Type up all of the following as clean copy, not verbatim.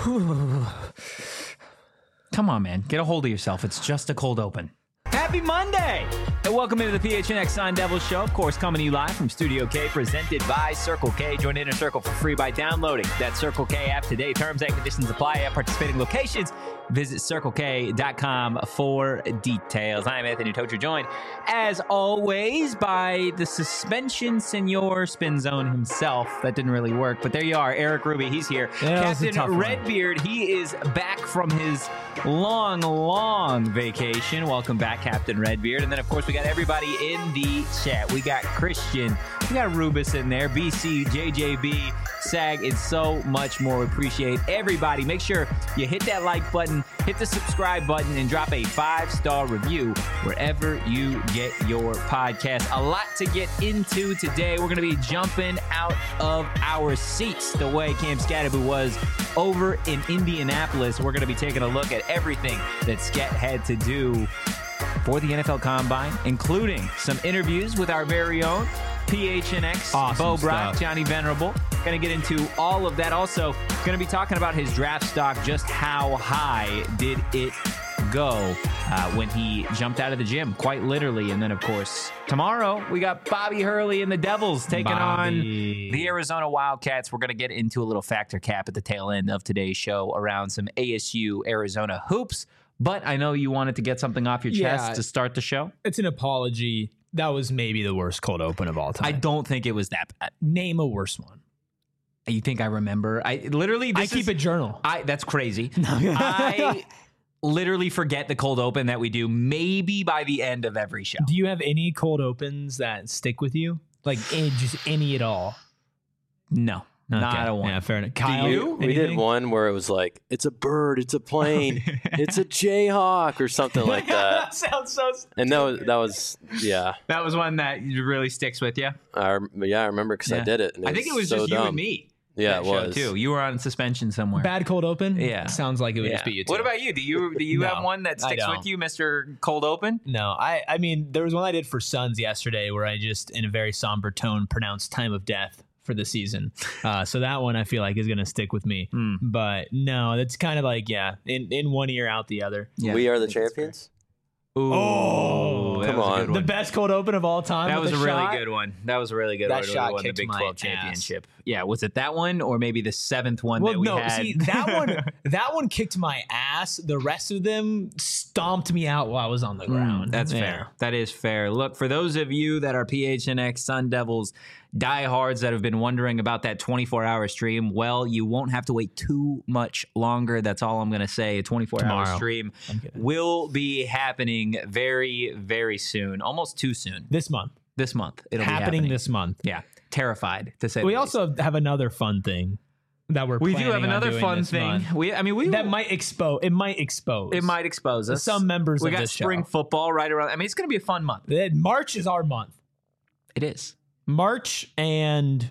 Come on, man. Get a hold of yourself. It's just a cold open. Happy Monday! And welcome into the PHNX Sun Devils Show. Of course, coming to you live from Studio K, presented by Circle K. Join Inner Circle for free by downloading that Circle K app today. Terms and conditions apply at participating locations. Visit CircleK.com for details. I'm Anthony Tocher, joined, as always, by the suspension senor spin zone himself. That didn't really work, but there you are. Eric Ruby, he's here. Yeah, Captain Redbeard, he is back from his long vacation. Welcome back, Captain Redbeard. And then, of course, we got everybody in the chat. We got Christian, we got Rubus in there, BC, JJB, SAG, and so much more. We appreciate everybody. Make sure you hit that like button, hit the subscribe button, and drop a 5-star review wherever you get your podcast. A lot to get into today. We're going to be jumping out of our seats the way Cam Skattebo was over in Indianapolis. We're going to be taking a look at everything that Skat had to do for the NFL Combine, including some interviews with our very own PHNX, awesome Bo Brock, stuff. Johnny Venerable. Going to get into all of that. Also, going to be talking about his draft stock. Just how high did it go when he jumped out of the gym, quite literally. And then, of course, tomorrow we got Bobby Hurley and the Devils taking on the Arizona Wildcats. We're going to get into a little factor cap at the tail end of today's show around some ASU Arizona hoops. But I know you wanted to get something off your chest to start the show. It's an apology. That was maybe the worst cold open of all time. I don't think it was that bad. Name a worse one. You think I remember? I keep a journal. That's crazy. I literally forget the cold open that we do maybe by the end of every show. Do you have any cold opens that stick with you? Like just any at all? No. Okay. Not a one. Yeah, fair enough. Kyle, you? We did one where it was like, it's a bird, it's a plane, it's a Jayhawk or something like that. That sounds so stupid. And that was yeah. That was one that really sticks with you. I remember because I did it. And I think it was so just you dumb. and me. Yeah, that it was. show too. You were on suspension somewhere. Bad cold open? Yeah. Sounds like it would just be you two. What about you? Do you No, have one that I sticks don't. with you, Mr. Cold Open? No, I mean, there was one I did for Suns yesterday where I just, in a very somber tone, pronounced time of death for the season. So that one I feel like is going to stick with me. But no, that's kind of like, in one ear, out the other. Yeah. We are the champions. Ooh, Oh, that come was a on. good The one. best cold open of all time. That with was a a really shot. good one. That was a really good That one. shot Won the kicked Big my 12 ass. championship. Yeah, was it that one or maybe the seventh one Well, that we no, had? see that one kicked my ass. The rest of them stomped me out while I was on the ground. That's fair. That is fair. Look, for those of you that are PHNX Sun Devils diehards that have been wondering about that 24-hour stream, well, you won't have to wait too much longer. That's all I'm going to say. A 24-hour Tomorrow. stream I'm kidding. will be happening very, very soon. Almost too soon. This month. This month. It'll be Happening happening. this month. Yeah. Terrified, to say We the least. also have another fun thing that We do have planning on another doing fun this thing. month. We That might expose. It might expose us. some members We of got this spring show. football right around. I mean, it's going to be a fun month. March is our month. It is. March and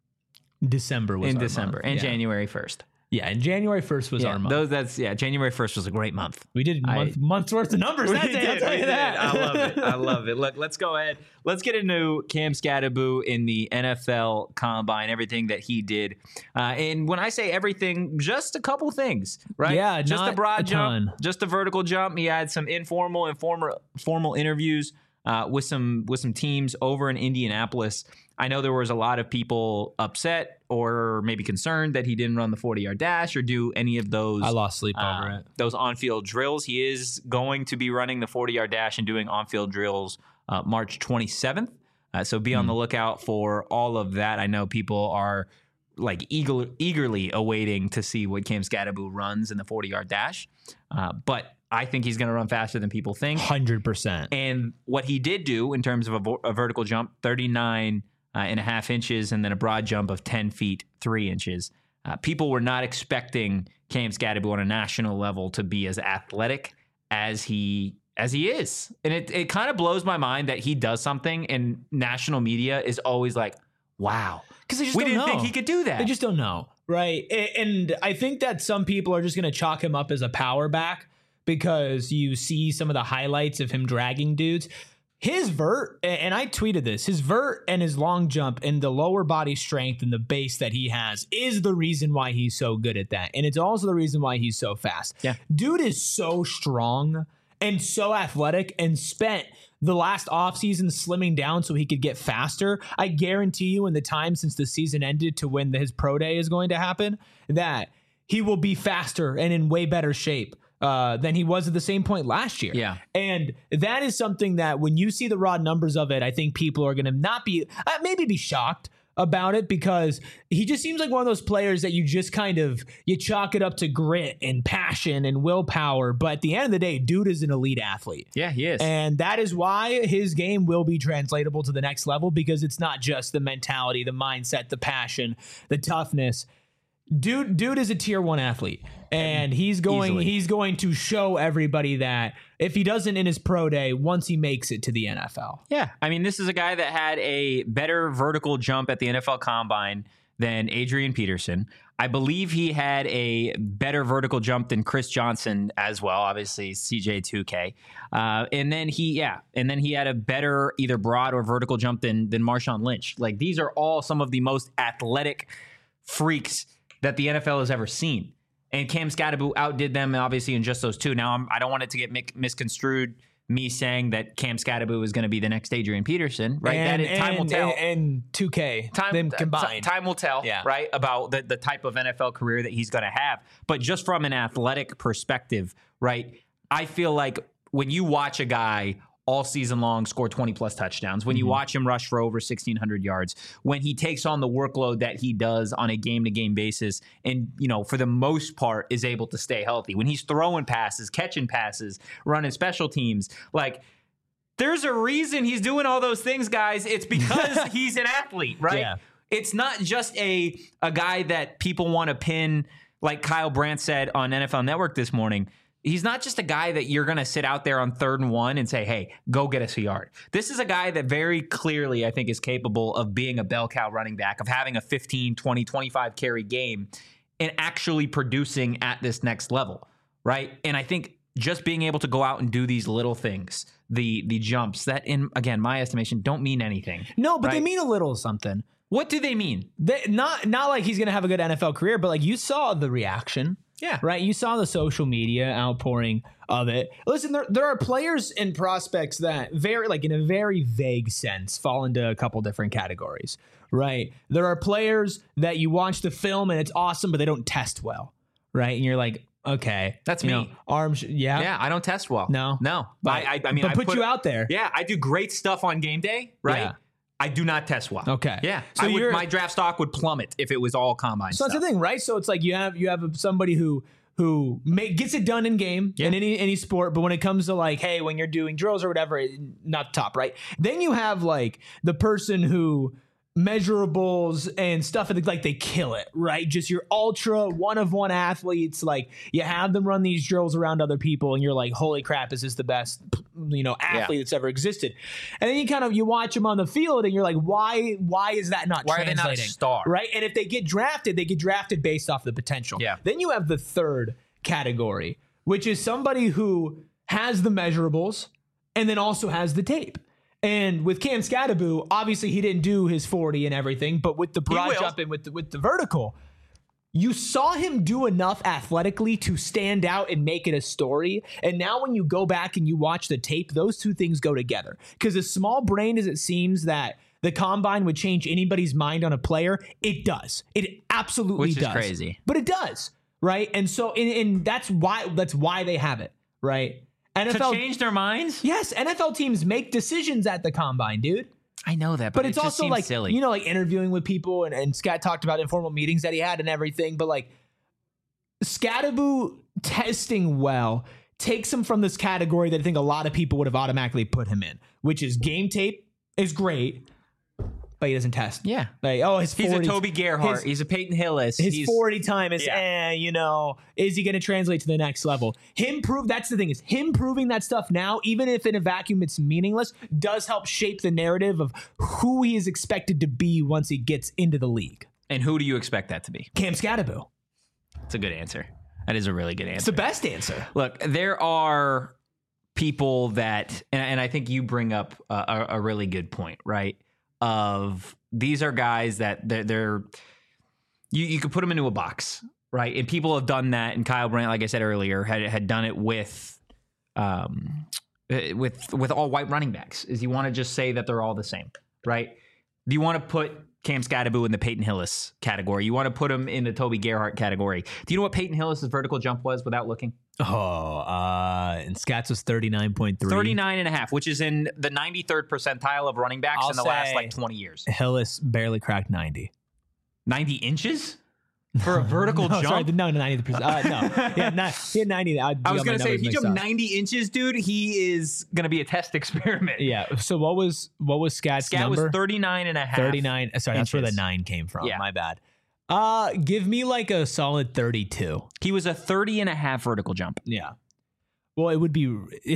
December was In our December month. and Yeah. January 1st. Yeah, and January 1st was our month. January 1st was a great month. We did month's worth of numbers that day. I'll tell you that. I love it. I love it. Look, let's go ahead. Let's get into Cam Skattebo in the NFL Combine, everything that he did. And when I say everything, just a couple things, right? Yeah, just not a broad a jump, ton. just a vertical jump. He had some informal and formal interviews with some teams over in Indianapolis. I know there was a lot of people upset or maybe concerned that he didn't run the 40-yard dash or do any of those. I lost sleep over it. Those on-field drills. He is going to be running the 40-yard dash and doing on-field drills March 27th. So be on the lookout for all of that. I know people are like eagerly awaiting to see what Cam Skattebo runs in the 40-yard dash. But I think he's going to run faster than people think. 100%. And what he did do in terms of a vertical jump, 39 and a half inches, and then a broad jump of 10 feet, 3 inches. People were not expecting Cam Skattebo on a national level to be as athletic as he is. And it kind of blows my mind that he does something and national media is always like, wow. Because they just We don't didn't know. think he could do that. They just don't know, right? And I think that some people are just going to chalk him up as a power back because you see some of the highlights of him dragging dudes. his vert, and I tweeted this, his vert and his long jump and the lower body strength and the base that he has is the reason why he's so good at that. And it's also the reason why he's so fast. Yeah. Dude is so strong and so athletic and spent the last offseason slimming down so he could get faster. I guarantee you in the time since the season ended to when his pro day is going to happen, that he will be faster and in way better shape than he was at the same point last year. Yeah. And that is something that when you see the raw numbers of it, I think people are going to not be, maybe be shocked about it, because he just seems like one of those players that you just kind of, you chalk it up to grit and passion and willpower. But at the end of the day, dude is an elite athlete. Yeah, he is. And that is why his game will be translatable to the next level, because it's not just the mentality, the mindset, the passion, the toughness. Dude is a tier 1 athlete, and he's going to show everybody that if he doesn't in his pro day, once he makes it to the NFL. Yeah. I mean, this is a guy that had a better vertical jump at the NFL Combine than Adrian Peterson. I believe he had a better vertical jump than Chris Johnson as well, obviously CJ2K. And then he had a better either broad or vertical jump than Marshawn Lynch. Like, these are all some of the most athletic freaks that the NFL has ever seen. And Cam Skattebo outdid them, obviously, in just those two. Now, I don't want it to get misconstrued, me saying that Cam Skattebo is going to be the next Adrian Peterson, right? Time will tell. And 2K, them combined. Time will tell, right, about the type of NFL career that he's going to have. But just from an athletic perspective, right, I feel like when you watch a guy all season long score 20-plus touchdowns, when you watch him rush for over 1,600 yards, when he takes on the workload that he does on a game-to-game basis and, for the most part is able to stay healthy, when he's throwing passes, catching passes, running special teams, like, there's a reason he's doing all those things, guys. It's because he's an athlete, right? Yeah. It's not just a guy that people want to pin, like Kyle Brandt said on NFL Network this morning. He's not just a guy that you're going to sit out there on 3rd and 1 and say, hey, go get us a yard. This is a guy that very clearly, I think, is capable of being a bell cow running back, of having a 15, 20, 25 carry game and actually producing at this next level, right? And I think just being able to go out and do these little things, the jumps that, in, again, my estimation, don't mean anything. No, but right? They mean a little something. What do they mean? Not like he's going to have a good NFL career, but like you saw the reaction. Yeah. Right. You saw the social media outpouring of it. Listen, there are players and prospects that in a very vague sense fall into a couple different categories. Right. There are players that you watch the film and it's awesome, but they don't test well. Right. And you're like, okay, that's me. Arms. Yeah. Yeah. I don't test well. No. But I mean, but put you out there. Yeah. I do great stuff on game day. Right. Yeah. I do not test well. Okay. Yeah. So my draft stock would plummet if it was all combine stuff. So that's the thing, right? So it's like you have somebody who gets it done in game in any sport, but when it comes to like, hey, when you're doing drills or whatever, not the top, right? Then you have like the person who measurables and stuff, like they kill it, right? Just your ultra one-of-one athletes, like you have them run these drills around other people and you're like, holy crap, is this the best athlete that's ever existed? And then you watch them on the field and you're like, why is that not why translating? Are they not a star? Right? And if they get drafted based off the potential. Yeah. Then you have the third category, which is somebody who has the measurables and then also has the tape. And with Cam Skattebo, obviously he didn't do his 40 and everything, but with the broad jump and with the vertical, you saw him do enough athletically to stand out and make it a story. And now when you go back and you watch the tape, those two things go together. Because as small brained as it seems that the combine would change anybody's mind on a player, it does. It absolutely does. Which is crazy. But it does, right? And so and that's why they have it, right? NFL, to change their minds? Yes, NFL teams make decisions at the combine, dude. I know that, but it's just also like silly. Like interviewing with people, and Scott talked about informal meetings that he had and everything. But like Skattebo testing well takes him from this category that I think a lot of people would have automatically put him in, which is game tape is great, but he doesn't test. Yeah. Like, he's a Toby Gerhart. He's a Peyton Hillis. His 40 time is, is he going to translate to the next level? That's the thing, is him proving that stuff now, even if in a vacuum it's meaningless, does help shape the narrative of who he is expected to be once he gets into the league. And who do you expect that to be? Cam Skattebo. That's a good answer. That is a really good answer. It's the best answer. Look, there are people that, and I think you bring up a really good point, right? Of these are guys that they're you could put them into a box, right? And people have done that. And Kyle Brandt, like I said earlier, had done it with all white running backs. Is you want to just say that they're all the same, right? Do you want to put Cam Skattebo in the Peyton Hillis category? You want to put him in the Toby Gerhart category? Do you know what Peyton Hillis' vertical jump was without looking? And Scats was 39.3. 39.5, which is in the 93rd percentile of running backs in the last 20 years. Hillis barely cracked 90. 90 inches? For a vertical jump? Sorry, no, 90%. No. He had 90. I was going to say, if you jump 90 inches, dude, he is going to be a test experiment. Yeah. So what was Scat's number? Scat was 39.5. 39. Sorry, that's where the 9 came from. Yeah. My bad. Give me like a solid 32. He was a 30.5 vertical jump. Yeah. Well, it would be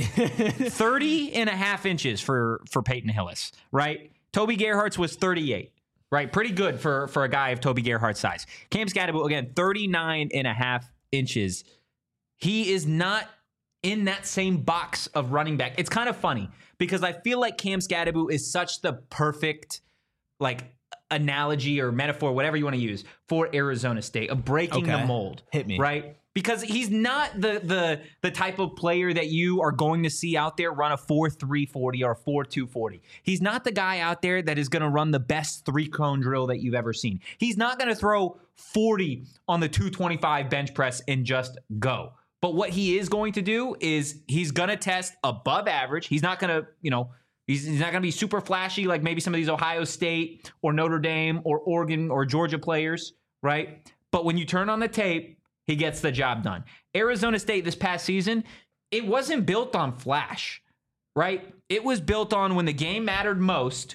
30.5 inches for Peyton Hillis, right? Toby Gerhart's was 38. Right, pretty good for a guy of Toby Gerhart's size. Cam Skattebo, again, 39.5 inches. He is not in that same box of running back. It's kind of funny because I feel like Cam Skattebo is such the perfect like analogy or metaphor, whatever you want to use, for Arizona State, of breaking the mold. Hit me. Right? Because he's not the type of player that you are going to see out there run a 4.3 40 or a 4.2 40. He's not the guy out there that is going to run the best 3-cone drill that you've ever seen. He's not going to throw 40 on the 225 bench press and just go. But what he is going to do is he's going to test above average. He's not going to, he's not going to be super flashy like maybe some of these Ohio State or Notre Dame or Oregon or Georgia players, right? But when you turn on the tape, he gets the job done. Arizona State this past season, it wasn't built on flash, right? It was built on when the game mattered most,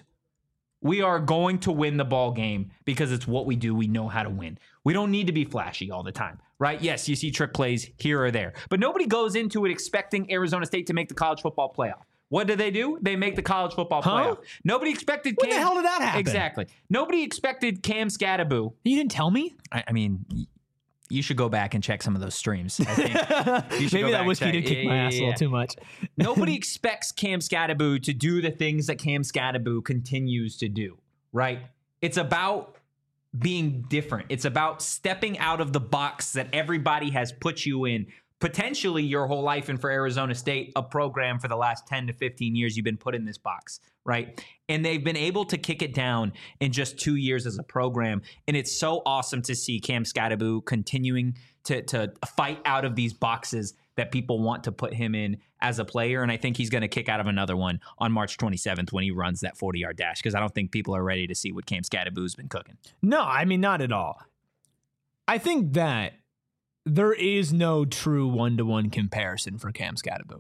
we are going to win the ball game because it's what we do. We know how to win. We don't need to be flashy all the time, right? Yes, you see trick plays here or there, but nobody goes into it expecting Arizona State to make the college football playoff. What do? They make the college football playoff. Nobody expected When the hell did that happen? Exactly. Nobody expected Cam Skattebo. You didn't tell me? I mean... You should go back and check some of those streams. I think maybe that whiskey did kick my ass a little too much. Nobody expects Cam Skattebo to do the things that Cam Skattebo continues to do, right? It's about being different. It's about stepping out of the box that everybody has put you in, potentially your whole life, and for Arizona State, a program for the last 10 to 15 years, you've been put in this box, right? And they've been able to kick it down in just 2 years as a program. And it's so awesome to see Cam Skattebo continuing to fight out of these boxes that people want to put him in as a player. And I think he's going to kick out of another one on March 27th when he runs that 40-yard dash, because I don't think people are ready to see what Cam Skattebo's been cooking. No, I mean, not at all. I think that there is no true one-to-one comparison for Cam Skattebo.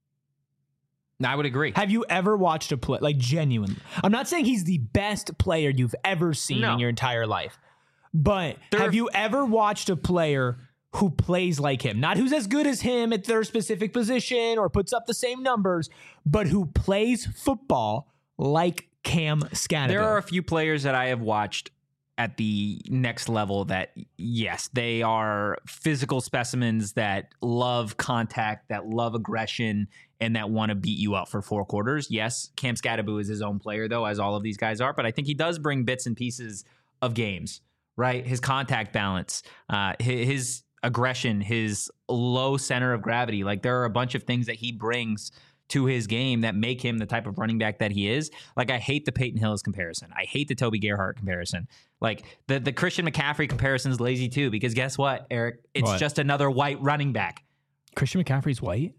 I would agree. Have you ever watched a play, like genuinely? I'm not saying he's the best player you've ever seen in your entire life, but have you ever watched a player who plays like him? Not who's as good as him at their specific position or puts up the same numbers, but who plays football like Cam Skattebo. There are a few players that I have watched at the next level that, yes, they are physical specimens that love contact, that love aggression, and that want to beat you up for 4 quarters. Yes, Cam Skattebo is his own player, though, as all of these guys are, but I think he does bring bits and pieces of games, right? His contact balance, his aggression, his low center of gravity. Like, there are a bunch of things that he brings to his game that make him the type of running back that he is. Like, I hate the Peyton Hillis comparison. I hate the Toby Gerhart comparison. Like, the Christian McCaffrey comparison is lazy too, because guess what, Eric? It's just another white running back. Christian McCaffrey's white?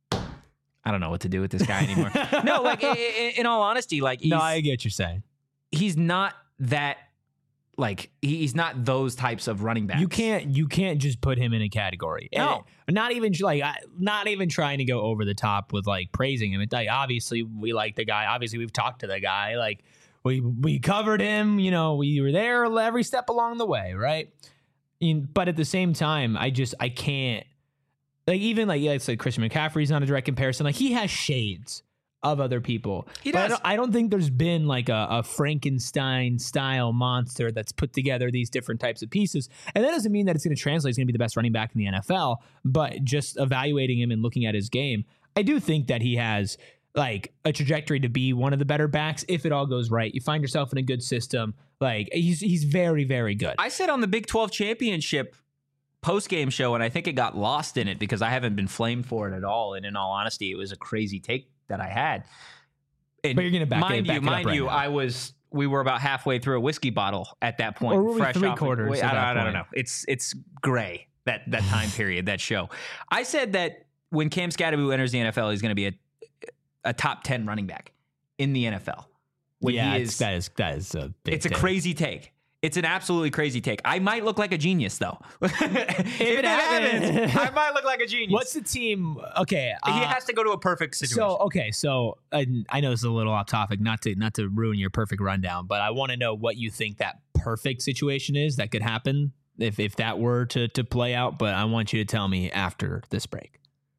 I don't know what to do with this guy anymore. No, like, in all honesty, like, no, I get what you're saying. He's not that, like, he's not those types of running backs. You can't just put him in a category. No. And not even trying to go over the top with like praising him. Like, obviously we like the guy. Obviously we've talked to the guy. Like, we covered him, we were there every step along the way, right? But at the same time, I can't, like, even like, let's say Christian McCaffrey's not a direct comparison. Like, he has shades of other people. He does. But I don't think there's been like a Frankenstein style monster that's put together these different types of pieces. And that doesn't mean that it's going to translate. He's going to be the best running back in the NFL, but just evaluating him and looking at his game, I do think that he has like a trajectory to be one of the better backs if it all goes right. You find yourself in a good system. Like he's very, very good. I said on the Big 12 championship post-game show, and I think it got lost in it because I haven't been flamed for it at all. And in all honesty, it was a crazy take that I had. And but you're going to back it up mind you, now. We were about halfway through a whiskey bottle at that point. Or were we fresh off. three-quarters at that I don't point? know. It's gray, that time period, that show. I said that when Cam Skattebo enters the NFL, he's going to be a top 10 running back in the NFL. When yeah, he is, that is a big it's a take. crazy take. It's an absolutely crazy take. I might look like a genius, though. if it happens, I might look like a genius. What's the team? Okay, he has to go to a perfect situation. So I know this is a little off topic, not to ruin your perfect rundown, but I want to know what you think that perfect situation is that could happen if that were to play out. But I want you to tell me after this break.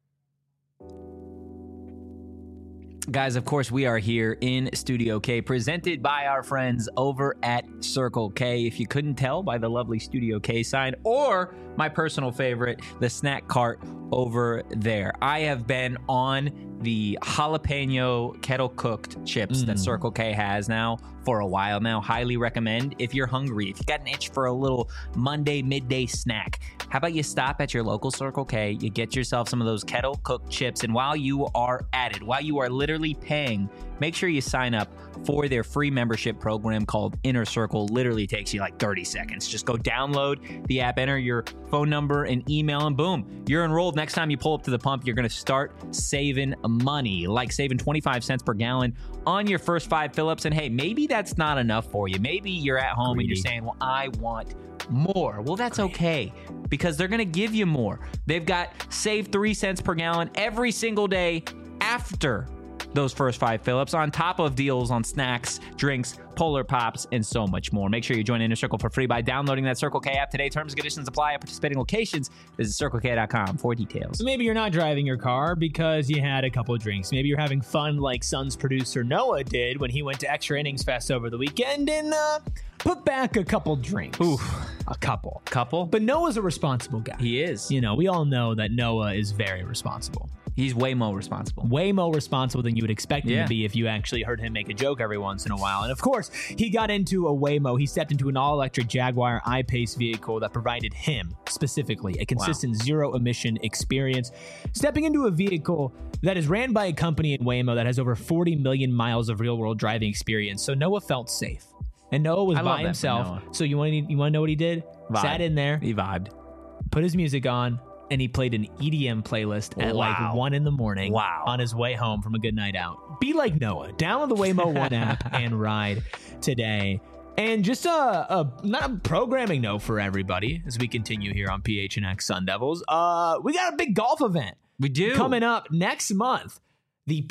Guys, of course, we are here in Studio K, presented by our friends over at Circle K. If you couldn't tell by the lovely Studio K sign, or my personal favorite, the snack cart over there. I have been on the jalapeno kettle cooked chips that Circle K has now for a while now. Highly recommend if you're hungry, if you got an itch for a little Monday midday snack. How about you stop at your local Circle K, you get yourself some of those kettle cooked chips, and while you are at it, while you are literally paying, make sure you sign up for their free membership program called Inner Circle. Literally takes you like 30 seconds. Just go download the app, enter your phone number and email, and boom, you're enrolled. Next time you pull up to the pump, you're going to start saving money, like saving 25 cents per gallon on your first 5 fill-ups. And hey, maybe that's not enough for you. Maybe you're at home and you're saying, well, I want more. Well, that's okay, because they're going to give you more. They've got save 3 cents per gallon every single day after those first 5 fill-ups, on top of deals on snacks, drinks, Polar Pops, and so much more. Make sure you join Inner Circle for free by downloading that Circle K app today. Terms and conditions apply at participating locations. Visit CircleK.com for details. Maybe you're not driving your car because you had a couple of drinks. Maybe you're having fun like Suns producer Noah did when he went to Extra Innings Fest over the weekend and put back a couple drinks. Oof. A couple. Couple? But Noah's a responsible guy. He is. You know, we all know that Noah is very responsible. He's way more responsible. Way more responsible than you would expect him to be if you actually heard him make a joke every once in a while. And of course, he got into a Waymo. He stepped into an all-electric Jaguar I-Pace vehicle that provided him, specifically, a consistent zero-emission experience. Stepping into a vehicle that is ran by a company in Waymo that has over 40 million miles of real-world driving experience. So Noah felt safe. And Noah was by himself. So you want to know what he did? Vibe. Sat in there. He vibed. Put his music on. And he played an EDM playlist at like 1 a.m. on his way home from a good night out. Be like Noah. Download the Waymo One app and ride today. And just not a programming note for everybody as we continue here on PHNX Sun Devils. We got a big golf event. We do. Coming up next month. The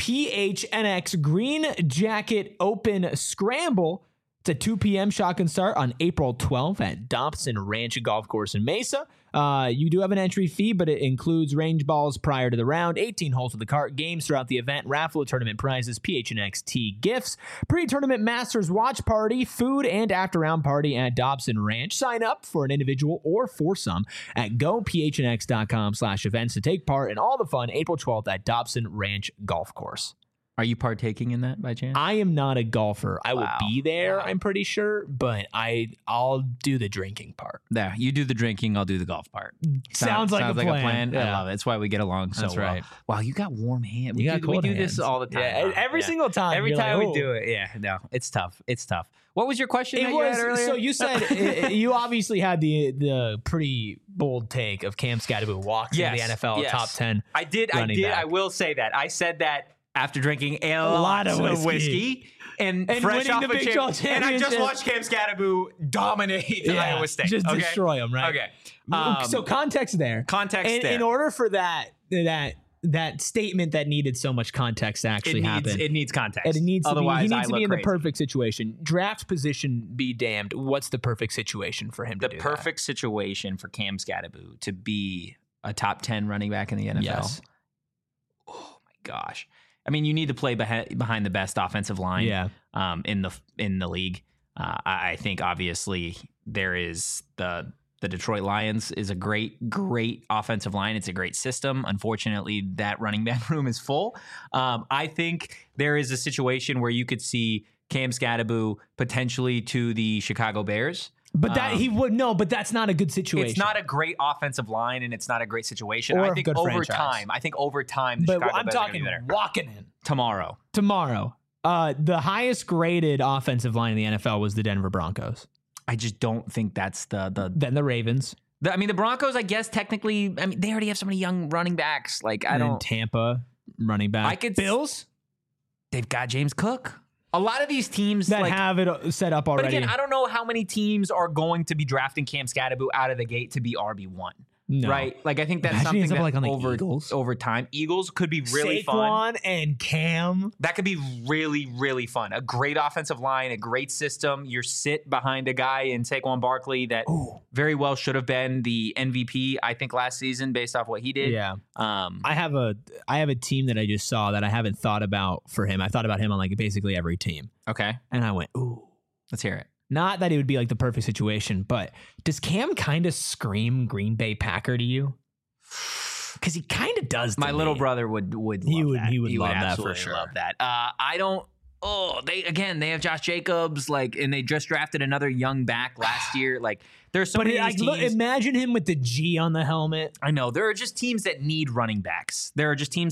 PHNX Green Jacket Open Scramble. It's a 2 p.m. shotgun start on April 12th at Dobson Ranch Golf Course in Mesa. You do have an entry fee, but it includes range balls prior to the round, 18 holes with the cart, games throughout the event, raffle tournament prizes, PHNX tee gifts, pre-tournament Masters watch party, food, and after-round party at Dobson Ranch. Sign up for an individual or foursome at gophnx.com/events to take part in all the fun April 12th at Dobson Ranch Golf Course. Are you partaking in that by chance? I am not a golfer. I will be there, I'm pretty sure, but I'll do the drinking part. Yeah, you do the drinking, I'll do the golf part. Sounds like a plan. Yeah. I love it. That's why we get along so well. Right. Wow, you got warm hands. We do this all the time. Yeah, every single time. Every time we do it. Yeah, no, it's tough. It's tough. What was your question you had earlier? So you said you obviously had the pretty bold take of Cam Skattebo walks into the NFL top 10. I did. I will say that. I said that after drinking a lot of whiskey and fresh off the Big 12 and I just watched Cam Skattebo dominate Iowa State. Just destroy them, right? Okay. So context there. In order for that statement that needed so much context to actually happen. It needs context. He needs to be in crazy. the perfect situation. Draft position be damned. What's the perfect situation for him to do The perfect situation for Cam Skattebo to be a top 10 running back in the NFL. Yes. Oh my gosh. I mean, you need to play behind the best offensive line in the league. I think obviously there is the The Detroit Lions is a great offensive line. It's a great system. Unfortunately, that running back room is full. I think there is a situation where you could see Cam Skattebo potentially to the Chicago Bears. But but that's not a good situation. It's not a great offensive line, and it's not a great situation. Or I a think good over franchise. time, the But Chicago I'm Bears are talking gonna be better. walking in Tomorrow. The highest graded offensive line in the NFL was the Denver Broncos. I just don't think that's the Then the Ravens. the Broncos, I guess technically, they already have so many young running backs. Like And then Tampa running back. Bills They've got James Cook. A lot of these teams that have it set up already. But again, I don't know how many teams are going to be drafting Cam Skattebo out of the gate to be RB1. No. Right? Like, I think that's Imagine something that on the Eagles. over time. Eagles could be really fun. Saquon and Cam. That could be really, really fun. A great offensive line, a great system. You're sit behind a guy in Saquon Barkley that very well should have been the MVP, I think, last season based off what he did. Yeah. I have a team that I just saw that I haven't thought about for him. I thought about him on like basically every team. Okay. And I went, ooh. Let's hear it. Not that it would be like the perfect situation, but does Cam kind of scream Green Bay Packer to you? Because he kind of does. To My me. little brother would love that. He would love that for absolutely sure. love that. I don't. Oh, they have Josh Jacobs, and they just drafted another young back last year. Like, there's so many of these teams. Imagine him with the G on the helmet. I know there are just teams that need running backs. Will those aren't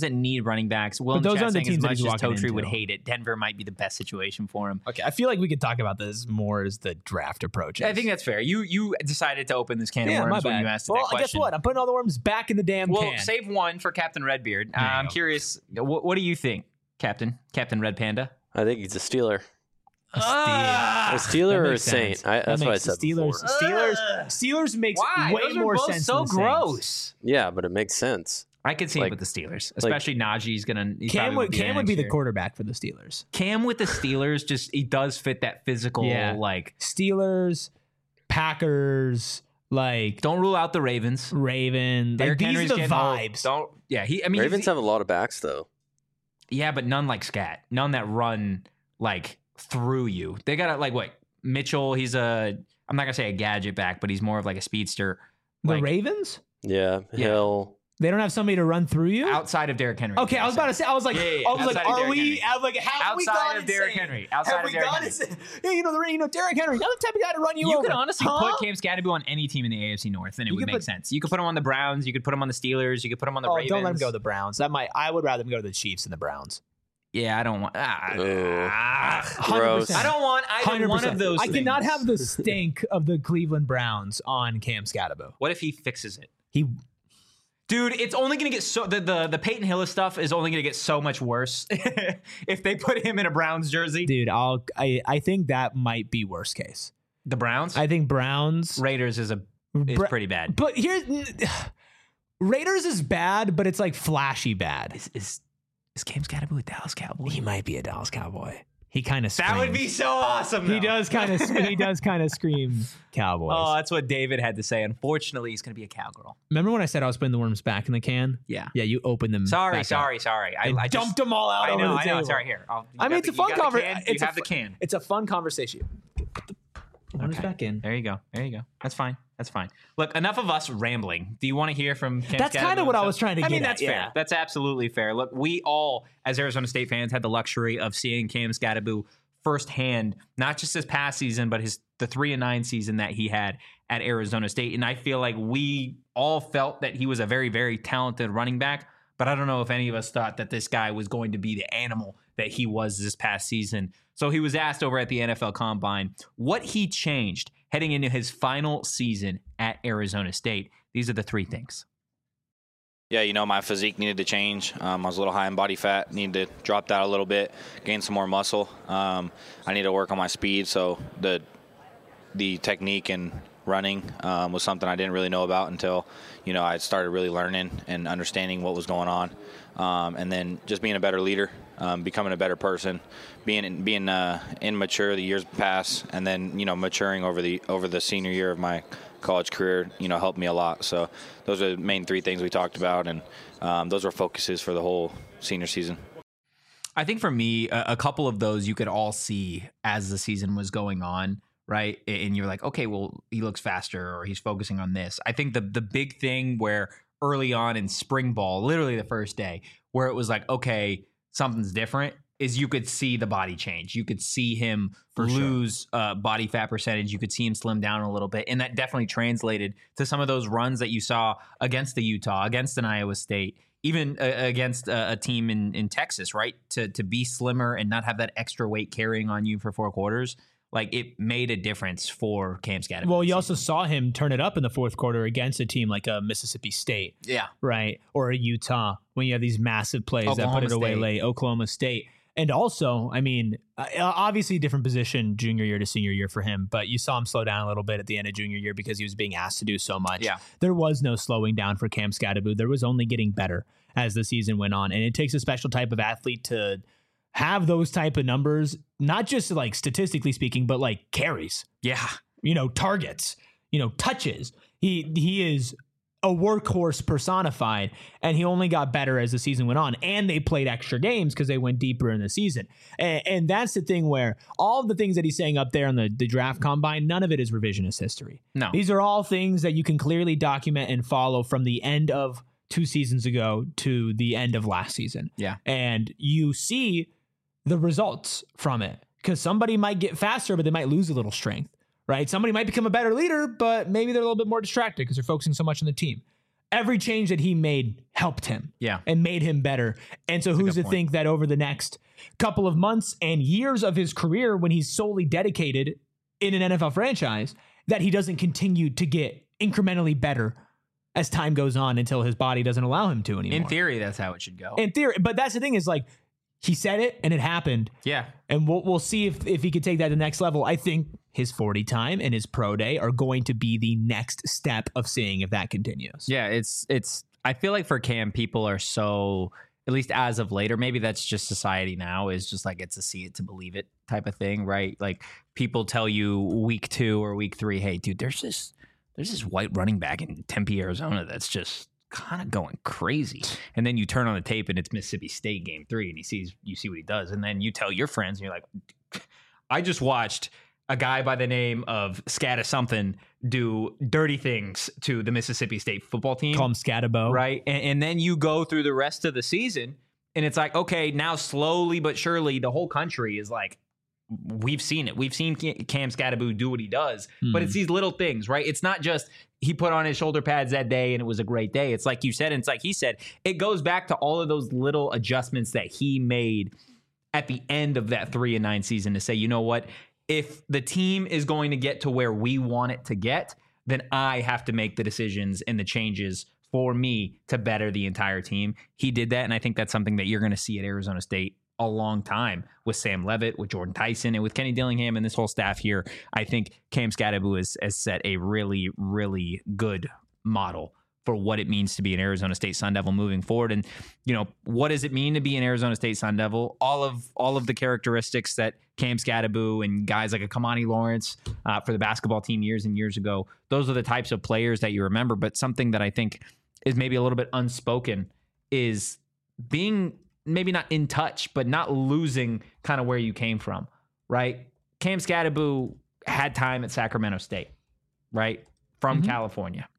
the teams as that much he's as walking Totri into. would hate it, Denver might be the best situation for him. Okay, I feel like we could talk about this more as the draft approaches. I think that's fair. You decided to open this can of worms when you asked that question. Guess what? I'm putting all the worms back in the damn can. Well, save one for Captain Redbeard. I'm curious. What do you think, Captain Red Panda? I think he's a Steeler. A Steeler or a Saint? That's what I said before. Steelers makes way Those are more both sense. so than the gross. Saints. Yeah, but it makes sense. I could see it with the Steelers, especially Najee's gonna. Cam would be the quarterback for the Steelers. Cam with the Steelers, he does fit that physical Steelers, Packers. Don't rule out the Ravens. Derrick Henry's getting vibes. Old. Ravens have a lot of backs though. Yeah, but none like Scat. None that run through you. They got Mitchell. He's I'm not gonna say a gadget back, but he's more of like a speedster. The Ravens? Yeah, Hill. They don't have somebody to run through you outside of Derrick Henry. Okay, I was about to say. I was like, are we? Have we outside gone of Derrick Henry? Outside of Derrick Henry. Derrick Henry, not the type of guy to run you over. You could honestly put Cam Skattebo on any team in the AFC North, and it would make sense. You could put him on the Browns. You could put him on the Steelers. You could put him on the Ravens. Don't let him go to the Browns. I would rather him go to the Chiefs than the Browns. Yeah, I don't want. 100%. I don't want either one of those. I cannot have the stink of the Cleveland Browns on Cam Skattebo. What if he fixes it? Dude, it's only going to get the Peyton Hillis stuff is only going to get so much worse if they put him in a Browns jersey. Dude, I think that might be worst case. The Browns? I think Browns. Raiders is pretty bad. But Raiders is bad, but it's flashy bad. Is Cam Skattebo a Dallas Cowboy? He might be a Dallas Cowboy. He kind of screams. That would be so awesome. He does kind of scream Cowboys. Oh, that's what David had to say. Unfortunately, he's going to be a cowgirl. Remember when I said I was putting the worms back in the can? Yeah. Yeah, you opened them. Sorry. I dumped them all out. I know. Sorry, here. It's a fun conversation. You have the can. It's a fun conversation. Put the worms back in. There you go. That's fine. Look, enough of us rambling. Do you want to hear from Cam That's kind of what I was trying to get at. That's fair. That's absolutely fair. Look, we all, as Arizona State fans, had the luxury of seeing Cam Skattebo firsthand, not just this past season, but the 3-9 season that he had at Arizona State. And I feel like we all felt that he was a very, very talented running back, but I don't know if any of us thought that this guy was going to be the animal that he was this past season. So he was asked over at the NFL Combine what he changed heading into his final season at Arizona State. These are the three things. Yeah, my physique needed to change. I was a little high in body fat, needed to drop that a little bit, gain some more muscle. I need to work on my speed, so the technique and running was something I didn't really know about until, I started really learning and understanding what was going on. And then just being a better leader, becoming a better person, being immature the years past, and then, maturing over the senior year of my college career, helped me a lot. So those are the main three things we talked about, and those were focuses for the whole senior season. I think for me, a couple of those you could all see as the season was going on. right? And you're like, okay, well, he looks faster or he's focusing on this. I think the big thing where early on in spring ball, literally the first day, where it was like, okay, something's different, is you could see the body change. You could see him lose body fat percentage. You could see him slim down a little bit. And that definitely translated to some of those runs that you saw against the Utah, against an Iowa State, even against a team in Texas, right? To be slimmer and not have that extra weight carrying on you for 4 quarters. Like, it made a difference for Cam Skattebo. Well, you also saw him turn it up in the fourth quarter against a team like a Mississippi State. Yeah. Right? Or a Utah, when you have these massive plays that put it away late. Oklahoma State. And also, I mean, obviously different position junior year to senior year for him, but you saw him slow down a little bit at the end of junior year because he was being asked to do so much. Yeah. There was no slowing down for Cam Skattebo. There was only getting better as the season went on. And it takes a special type of athlete to have those type of numbers, not just like statistically speaking, but like carries. Yeah. Targets, touches. He is a workhorse personified, and he only got better as the season went on, and they played extra games because they went deeper in the season. And that's the thing where all the things that he's saying up there on the draft combine, none of it is revisionist history. No. These are all things that you can clearly document and follow from the end of 2 seasons ago to the end of last season. Yeah. And you see the results from it, because somebody might get faster, but they might lose a little strength. Right? Somebody might become a better leader, but maybe they're a little bit more distracted because they're focusing so much on the team. Every change that he made helped him and made him better. And so who's to think that over the next couple of months and years of his career, when he's solely dedicated in an NFL franchise, that he doesn't continue to get incrementally better as time goes on until his body doesn't allow him to anymore. In theory, that's how it should go. In theory. But that's the thing, is like, he said it and it happened. Yeah. And we'll see if he could take that to the next level. I think his 40 time and his pro day are going to be the next step of seeing if that continues. Yeah, it's I feel like for Cam, people are so, at least as of later, maybe that's just society now, is just like, it's a see it to believe it type of thing, right? Like, people tell you week 2 or week 3, hey, dude, there's this white running back in Tempe, Arizona that's just kind of going crazy. And then you turn on the tape and it's Mississippi State game 3 and you see what he does. And then you tell your friends and you're like, I just watched a guy by the name of Scatta something do dirty things to the Mississippi State football team. Call him Skattebo. Right. And then you go through the rest of the season and it's like, okay, now slowly but surely the whole country is like, we've seen it. We've seen Cam Skattebo do what he does, but it's these little things, right? It's not just he put on his shoulder pads that day and it was a great day. It's like you said, and it's like he said, it goes back to all of those little adjustments that he made at the end of that 3-9 season to say, you know what? If the team is going to get to where we want it to get, then I have to make the decisions and the changes for me to better the entire team. He did that, and I think that's something that you're going to see at Arizona State a long time with Sam Levitt, with Jordan Tyson, and with Kenny Dillingham and this whole staff here. I think Cam Skattebo has set a really, really good model for what it means to be an Arizona State Sun Devil moving forward. And, what does it mean to be an Arizona State Sun Devil? All of the characteristics that Cam Skattebo and guys like a Kamani Lawrence for the basketball team years and years ago, those are the types of players that you remember. But something that I think is maybe a little bit unspoken is being maybe not in touch, but not losing kind of where you came from, right? Cam Skattebo had time at Sacramento State, right? From California.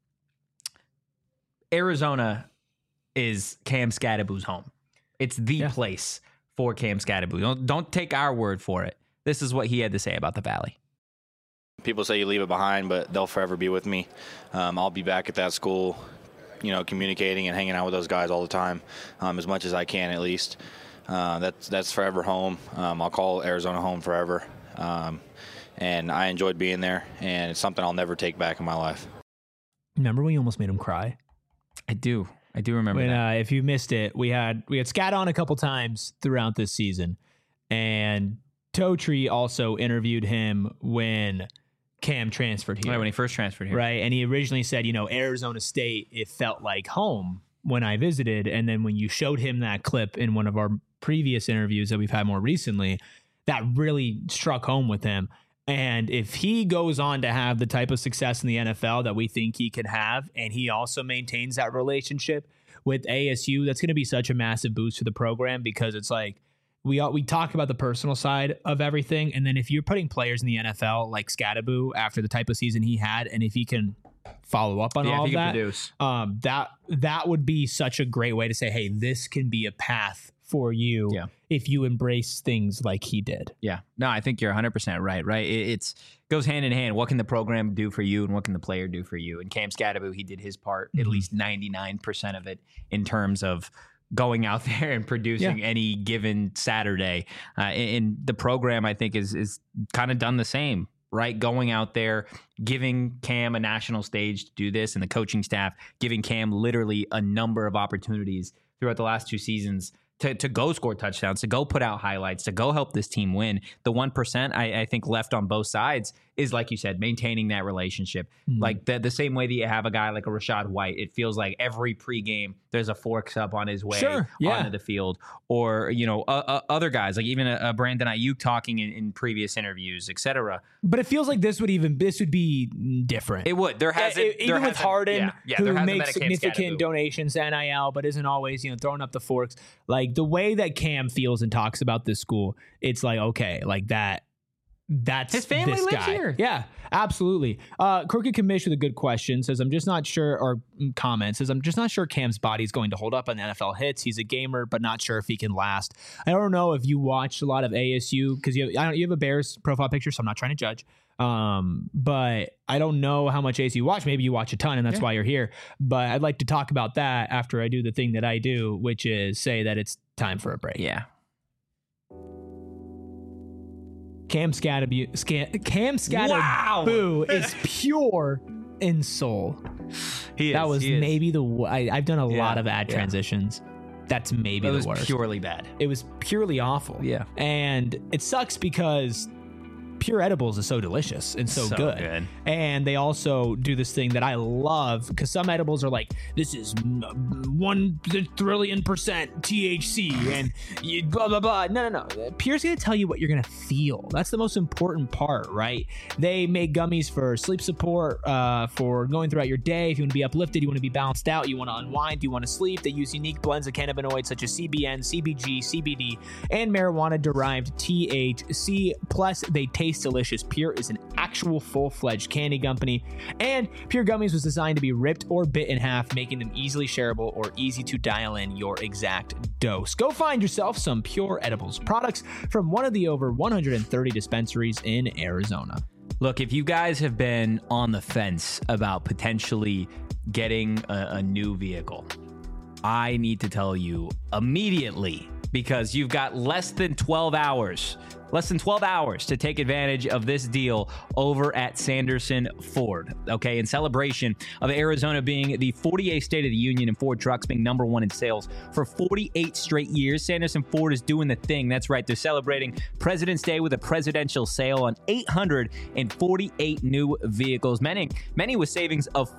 Arizona is Cam Skattebo's home. It's the place for Cam Skattebo. Don't take our word for it. This is what he had to say about the Valley. People say you leave it behind, but they'll forever be with me. I'll be back at that school, communicating and hanging out with those guys all the time, as much as I can at least. That's forever home. I'll call Arizona home forever. And I enjoyed being there, and it's something I'll never take back in my life. Remember when you almost made him cry? I do remember that. If you missed it, we had Scat on a couple times throughout this season, and Totri also interviewed him when Cam transferred here. Right, when he first transferred here. Right, and he originally said, Arizona State, it felt like home when I visited, and then when you showed him that clip in one of our previous interviews that we've had more recently, that really struck home with him. And if he goes on to have the type of success in the NFL that we think he can have, and he also maintains that relationship with ASU, that's going to be such a massive boost for the program, because it's like, we talk about the personal side of everything, and then if you're putting players in the NFL like Scadaboo after the type of season he had, and if he can follow up on all of that, that would be such a great way to say, hey, this can be a path for you if you embrace things like he did. Yeah. No, I think you're 100% right? It's goes hand in hand. What can the program do for you and what can the player do for you? And Cam Scadaboo, he did his part, at least 99% of it, in terms of going out there and producing any given Saturday. And the program, I think, is kind of done the same, right? Going out there, giving Cam a national stage to do this, and the coaching staff giving Cam literally a number of opportunities throughout the last 2 seasons to go score touchdowns, to go put out highlights, to go help this team win. The 1% I think left on both sides is, like you said, maintaining that relationship. Like the same way that you have a guy like a Rashad White, it feels like every pregame there's a forks up on his way onto the field. Or, other guys, like even a Brandon Ayuk talking in previous interviews, etc. But it feels like this would be different. It would. There hasn't even with Harden, who makes significant Scadaboo donations to NIL, but isn't always throwing up the forks. Like the way that Cam feels and talks about this school, it's like, okay, like that. That's his family this lives guy. here. Yeah, absolutely. Crooked Commish with a good question says, I'm just not sure, or comment says, I'm just not sure Cam's body's going to hold up on NFL hits. He's a gamer, but not sure if he can last. I don't know if you watched a lot of ASU, because you have a Bears profile picture, so I'm not trying to judge. But I don't know how much ASU you watch. Maybe you watch a ton, and that's why you're here. But I'd like to talk about that after I do the thing that I do, which is say that it's time for a break. Yeah. Cam Scadaboo is pure in soul. That was maybe I've done a lot of ad transitions. That's maybe the worst. Purely bad. It was purely awful. Yeah. And it sucks because Pure Edibles is so delicious and so good. And they also do this thing that I love, because some edibles are like, this is 1 trillion % THC and blah, blah, blah. No. Pure's going to tell you what you're going to feel. That's the most important part, right? They make gummies for sleep support, for going throughout your day. If you want to be uplifted, you want to be balanced out, you want to unwind, you want to sleep. They use unique blends of cannabinoids such as CBN, CBG, CBD, and marijuana-derived THC. Plus, they taste delicious. Pure is an actual full-fledged candy company, and Pure Gummies was designed to be ripped or bit in half, making them easily shareable or easy to dial in your exact dose. Go find yourself some Pure Edibles products from one of the over 130 dispensaries in Arizona. Look, if you guys have been on the fence about potentially getting a new vehicle, I need to tell you immediately, because you've got less than 12 hours to take advantage of this deal over at Sanderson Ford. Okay, in celebration of Arizona being the 48th state of the union and Ford trucks being #1 in sales for 48 straight years, Sanderson Ford is doing the thing. That's right, they're celebrating President's Day with a presidential sale on 848 new vehicles, many with savings of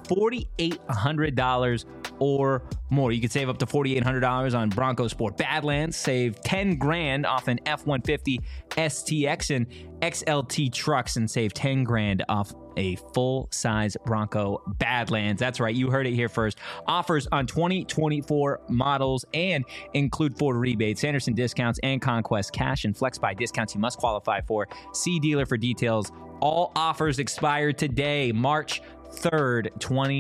$4,800 or more. You could save up to $4,800 on Bronco Sport Badlands, save $10,000 off an F-150 STX and XLT trucks, and save $10,000 off a full-size Bronco Badlands. That's right, you heard it here first. Offers on 2024 models and include Ford rebates, Sanderson discounts, and Conquest cash and flex buy discounts you must qualify for. See dealer for details. All offers expire today, March 3rd,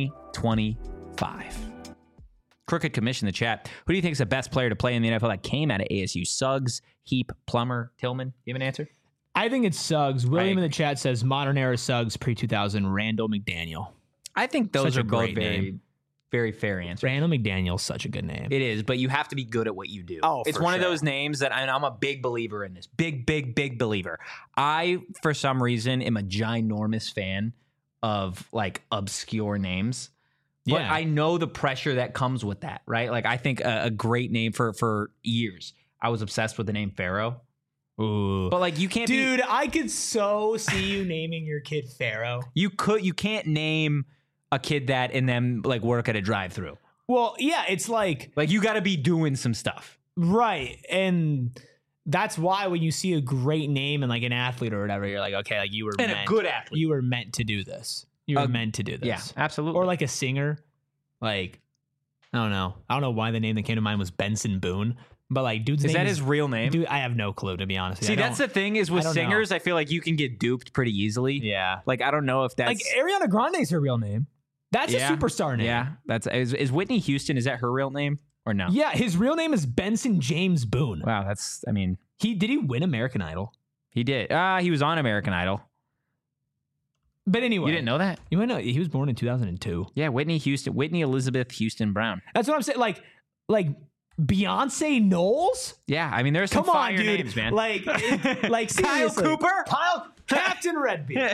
2025. Crooked Commission in the chat. Who do you think is the best player to play in the NFL that came out of ASU? Suggs, Heap, Plummer, Tillman? You have an answer? I think it's Suggs. William in the chat says modern era Suggs, pre-2000, Randall McDaniel. I think those are both name. very fair answers. Randall McDaniel's such a good name. It is, but you have to be good at what you do. Oh, it's one of those names that I'm a big believer in this. Big believer. I, for some reason, am a ginormous fan of like obscure names. But I know the pressure that comes with that, right? Like I think a great name for years. I was obsessed with the name Pharaoh. Ooh. But like you can't Dude, I could so see you naming your kid Pharaoh. You can't name a kid that and then like work at a drive-through. Well, yeah, it's like you got to be doing some stuff. Right. And that's why when you see a great name and like an athlete or whatever, you're like, okay, like you were a good athlete. You were meant to do this. You were meant to do this. Yeah, absolutely. Or like a singer. Like, I don't know why the name that came to mind was Benson Boone. But like, dude's Is name that his real name? Dude, I have no clue, to be honest. See, that's the thing is with I don't singers, I feel like you can get duped pretty easily. Yeah. Like, I don't know if that's Like Ariana Grande's her real name. That's Yeah. a superstar name. Yeah, that's is Whitney Houston. Is that her real name or no? Yeah, his real name is Benson James Boone. Wow, that's. I mean, Did he win American Idol? he did. He was on American Idol. But anyway, You didn't know that? You might know he was born in 2002. Yeah, Whitney Elizabeth Houston Brown. That's what I'm saying. Like Beyonce Knowles. Yeah, I mean, there's some Come on, fire dude. names, man. Like Kyle seriously. Cooper. Captain Redbeard.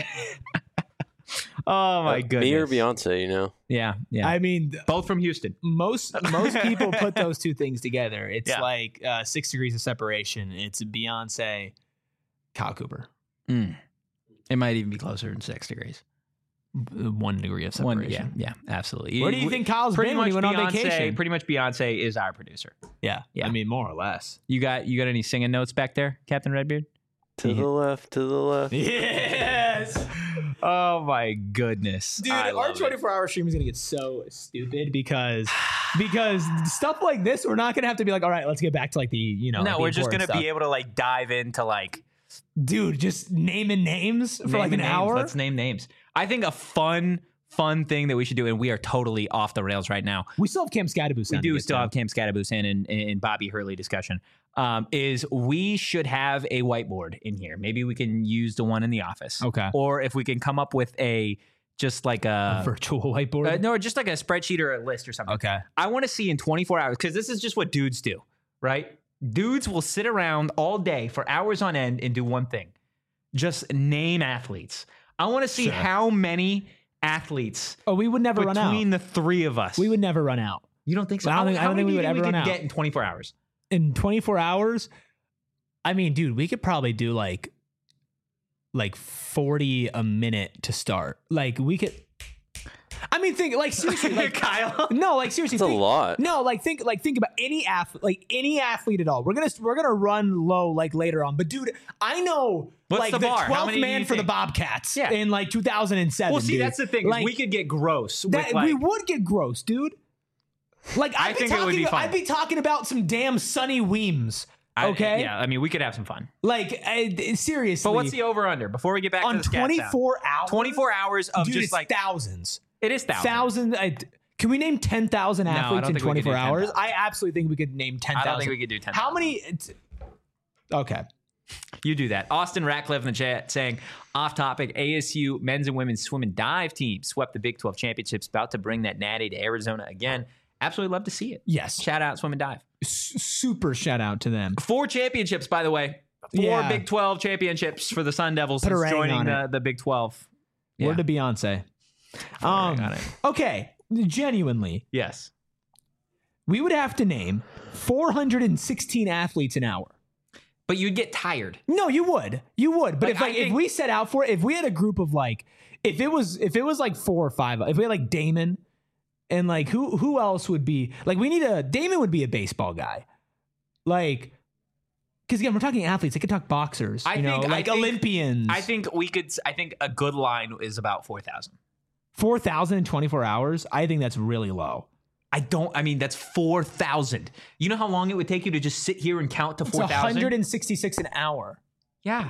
Oh my goodness. Me or Beyonce, you know? Yeah. I mean, Both from Houston. most people put those two things together. It's Yeah. like 6 degrees of separation. It's Beyonce, Kyle Cooper. It might even be closer than 6 degrees. 1 degree of separation. Yeah, absolutely. Where do you think Kyle's been when he went on vacation? Pretty much Beyonce is our producer. Yeah. Yeah. I mean, more or less. You got any singing notes back there, Captain Redbeard? To the left, to the left. Yes. Oh my goodness. Dude, I our love it. 24-hour stream is going to get so stupid because stuff like this, we're not going to have to be like, all right, let's get back to like the, No, the we're just important gonna be stuff. able to like dive into like Dude, just naming names for like an naming names. hour. Let's name names. I think a fun thing that we should do, and we are totally off the rails right now. We still have Cam Scadaboo. We do still have Cam Scadaboo and Bobby Hurley discussion. Is we should have a whiteboard in here. Maybe we can use the one in the office. Okay. Or if we can come up with just like a virtual whiteboard. no, just like a spreadsheet or a list or something. Okay. I want to see in 24 hours, because this is just what dudes do, right? Dudes will sit around all day for hours on end and do one thing. Just name athletes. I want to see how many athletes Oh, we would never run out. between the three of us. We would never run out. You don't think so? I don't think- I How don't many think we do would you ever think run we out. could get in 24 hours? In 24 hours, I mean, dude, we could probably do like 40 a minute to start. Like we could. I mean, think like seriously, like Kyle. No, like seriously, That's a think, lot. No, think about any athlete at all. We're gonna run low like later on. But dude, I know What's like the bar? How 12th many do man you for the think? Bobcats Yeah. in like 2007. Well, see, dude. that's the thing. Like, we could get gross. that, with like, we would get gross, dude. Like I think it would be fun. I'd be talking about some damn Sonny Weems. Okay. Yeah, I mean, we could have some fun. Like seriously. But what's the over under before we get back on to the stats 24 hours? 24 hours of Dude, just it's like thousands. it is thousands. Can we name 10,000 I don't athletes in think we could do 24 hours? 10,000. I absolutely think we could name 10,000. I don't think we could do 10,000. How many? Okay. You do that. Austin Ratcliffe in the chat saying, off topic, ASU men's and women's swim and dive team swept the Big 12 championships, about to bring that natty to Arizona again. Absolutely love to see it. Yes. Shout out swim and dive. Super shout out to them. 4 championships, by the way. 4 Yeah. Big 12 championships for the Sun Devils Put a since ring joining on the Big 12. Yeah. Word to Beyonce. ring on it. Okay. Genuinely, Yes. we would have to name 416 athletes an hour. But you'd get tired. No, you would. But Like, if I if think- we set out for it, if we had a group of like, if it was like 4 or 5, if we had like Damon and like who else would be like, Damon would be a baseball guy, like, because again we're talking athletes. They could talk boxers, I think Olympians. I think a good line is about 4,000. 4,000 in 24 hours. I think that's really low. I mean, that's 4,000. You know how long it would take you to just sit here and count to It's 4,000? 166 an hour. Yeah.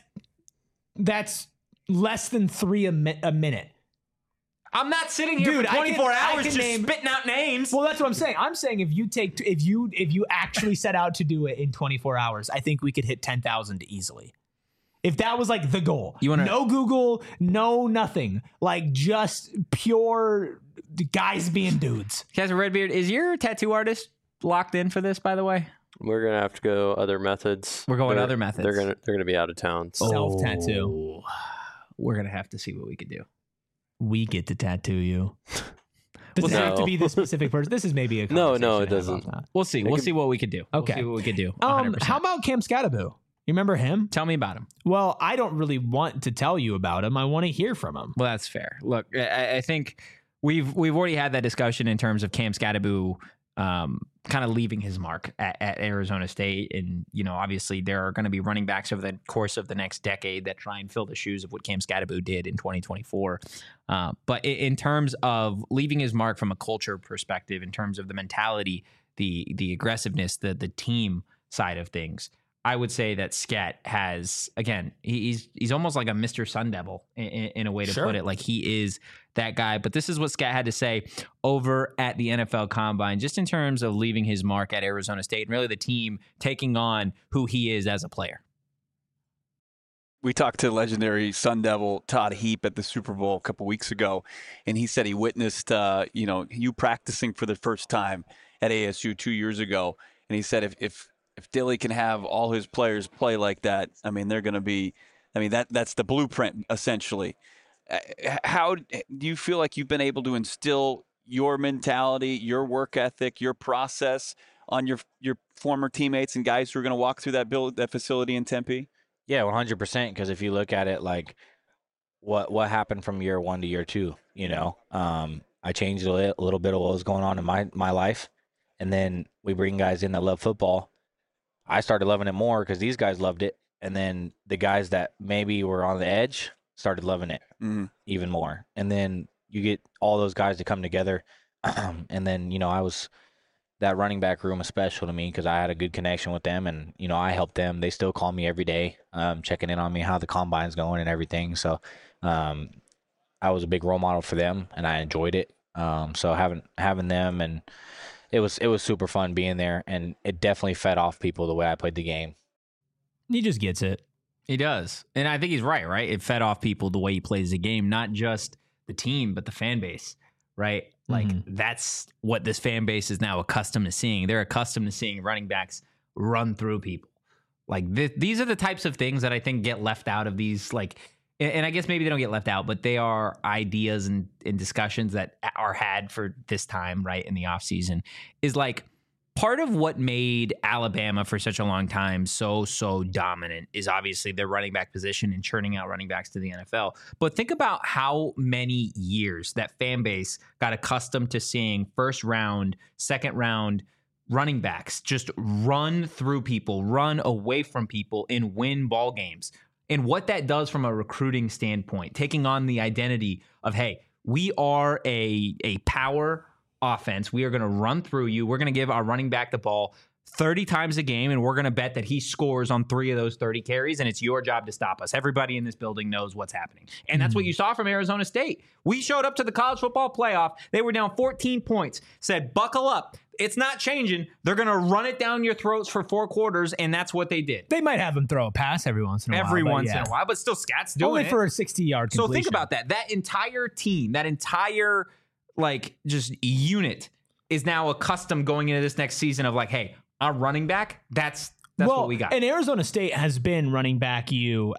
That's less than 3 a minute. I'm not sitting here Dude, for I 24 can hours just name- spitting out names. Well, that's what I'm saying. I'm saying if you actually set out to do it in 24 hours, I think we could hit 10,000 easily. If that was like the goal, no Google, no nothing, like just pure guys being dudes. Captain Redbeard, is your tattoo artist locked in for this, by the way? We're gonna have to go other methods. We're going They're- other methods. They're gonna be out of town. So. Self tattoo. We're going to have to see what we could do. We get to tattoo you. Does it No. have to be the specific person? This is maybe a No, conversation it to have doesn't. off that. We'll see. We'll see what we could do. Okay. We'll see what we could do. 100%. How about Cam Scadaboo? You remember him? Tell me about him. Well, I don't really want to tell you about him. I want to hear from him. Well, that's fair. Look, I think we've already had that discussion in terms of Cam Scadaboo kind of leaving his mark at Arizona State. And, you know, obviously there are going to be running backs over the course of the next decade that try and fill the shoes of what Cam Scadaboo did in 2024. But in terms of leaving his mark from a culture perspective, in terms of the mentality the aggressiveness, the team side of things, I would say that Scat has, again, he's almost like a Mr. Sun Devil in a way to put it. Like, he is that guy. But this is what Scat had to say over at the NFL Combine, just in terms of leaving his mark at Arizona State and really the team taking on who he is as a player. We talked to legendary Sun Devil Todd Heap at the Super Bowl a couple weeks ago, and he said he witnessed, you practicing for the first time at ASU 2 years ago. And he said if Dilly can have all his players play like that, I mean, they're going to be, that's the blueprint, essentially. How do you feel like you've been able to instill your mentality, your work ethic, your process on your former teammates and guys who are going to walk through that facility in Tempe? Yeah, 100%. Because if you look at it, like what happened from year 1 to year 2, I changed a little bit of what was going on in my life, and then we bring guys in that love football. I started loving it more because these guys loved it, and then the guys that maybe were on the edge started loving it even more. And then you get all those guys to come together, and then I was. That running back room is special to me because I had a good connection with them, and I helped them. They still call me every day, checking in on me, how the combine's going and everything. So I was a big role model for them, and I enjoyed it. So having them, and it was super fun being there, and it definitely fed off people the way I played the game. He just gets it. He does, and I think he's right. It fed off people the way he plays the game, not just the team, but the fan base. Right? Like, that's what this fan base is now accustomed to seeing. They're accustomed to seeing running backs run through people. Like, these are the types of things that I think get left out of these, like, and I guess maybe they don't get left out, but they are ideas and discussions that are had for this time, right, in the offseason, is like, part of what made Alabama for such a long time so dominant is obviously their running back position and churning out running backs to the NFL. But think about how many years that fan base got accustomed to seeing first round, second round running backs just run through people, run away from people, and win ball games. And what that does from a recruiting standpoint, taking on the identity of, hey, we are a power offense. We are going to run through you. We're going to give our running back the ball 30 times a game, and we're going to bet that he scores on 3 of those 30 carries, and it's your job to stop us. Everybody in this building knows what's happening. And that's what you saw from Arizona State. We showed up to the college football playoff. They were down 14 points, said, buckle up. It's not changing. They're going to run it down your throats for 4 quarters, and that's what they did. They might have him throw a pass every once in a while. Every once in a while, but still Scat's doing only it. for a 60-yard completion. So think about that. That entire team, that entire, just unit is now accustomed going into this next season of like, hey, our running back, that's what we got. And Arizona State has been running back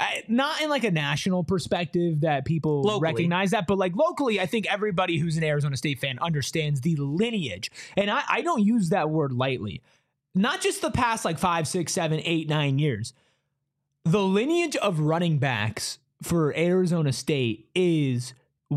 not in like a national perspective that people recognize that, but like locally, I think everybody who's an Arizona State fan understands the lineage. And I don't use that word lightly. Not just the past like 5, 6, 7, 8, 9 years. The lineage of running backs for Arizona State is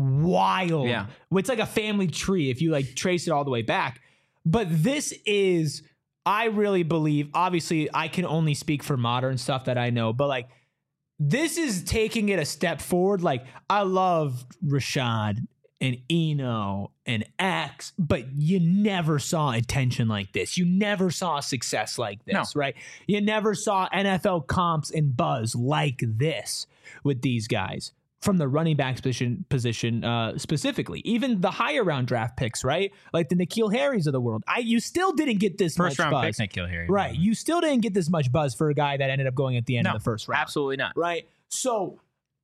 wild. Yeah. It's like a family tree if you like trace it all the way back. But this is, I really believe, obviously I can only speak for modern stuff that I know, but like this is taking it a step forward. Like, I love Rashad and Eno and X, but you never saw attention like this. You never saw success like this, right? You never saw NFL comps and buzz like this with these guys from the running back position specifically. Even the higher round draft picks, right? Like the N'Keal Harrys of the world. You still didn't get this first much round buzz. pick N'Keal Harry. Right. You still didn't get this much buzz for a guy that ended up going at the end of the first round. Absolutely not. Right. So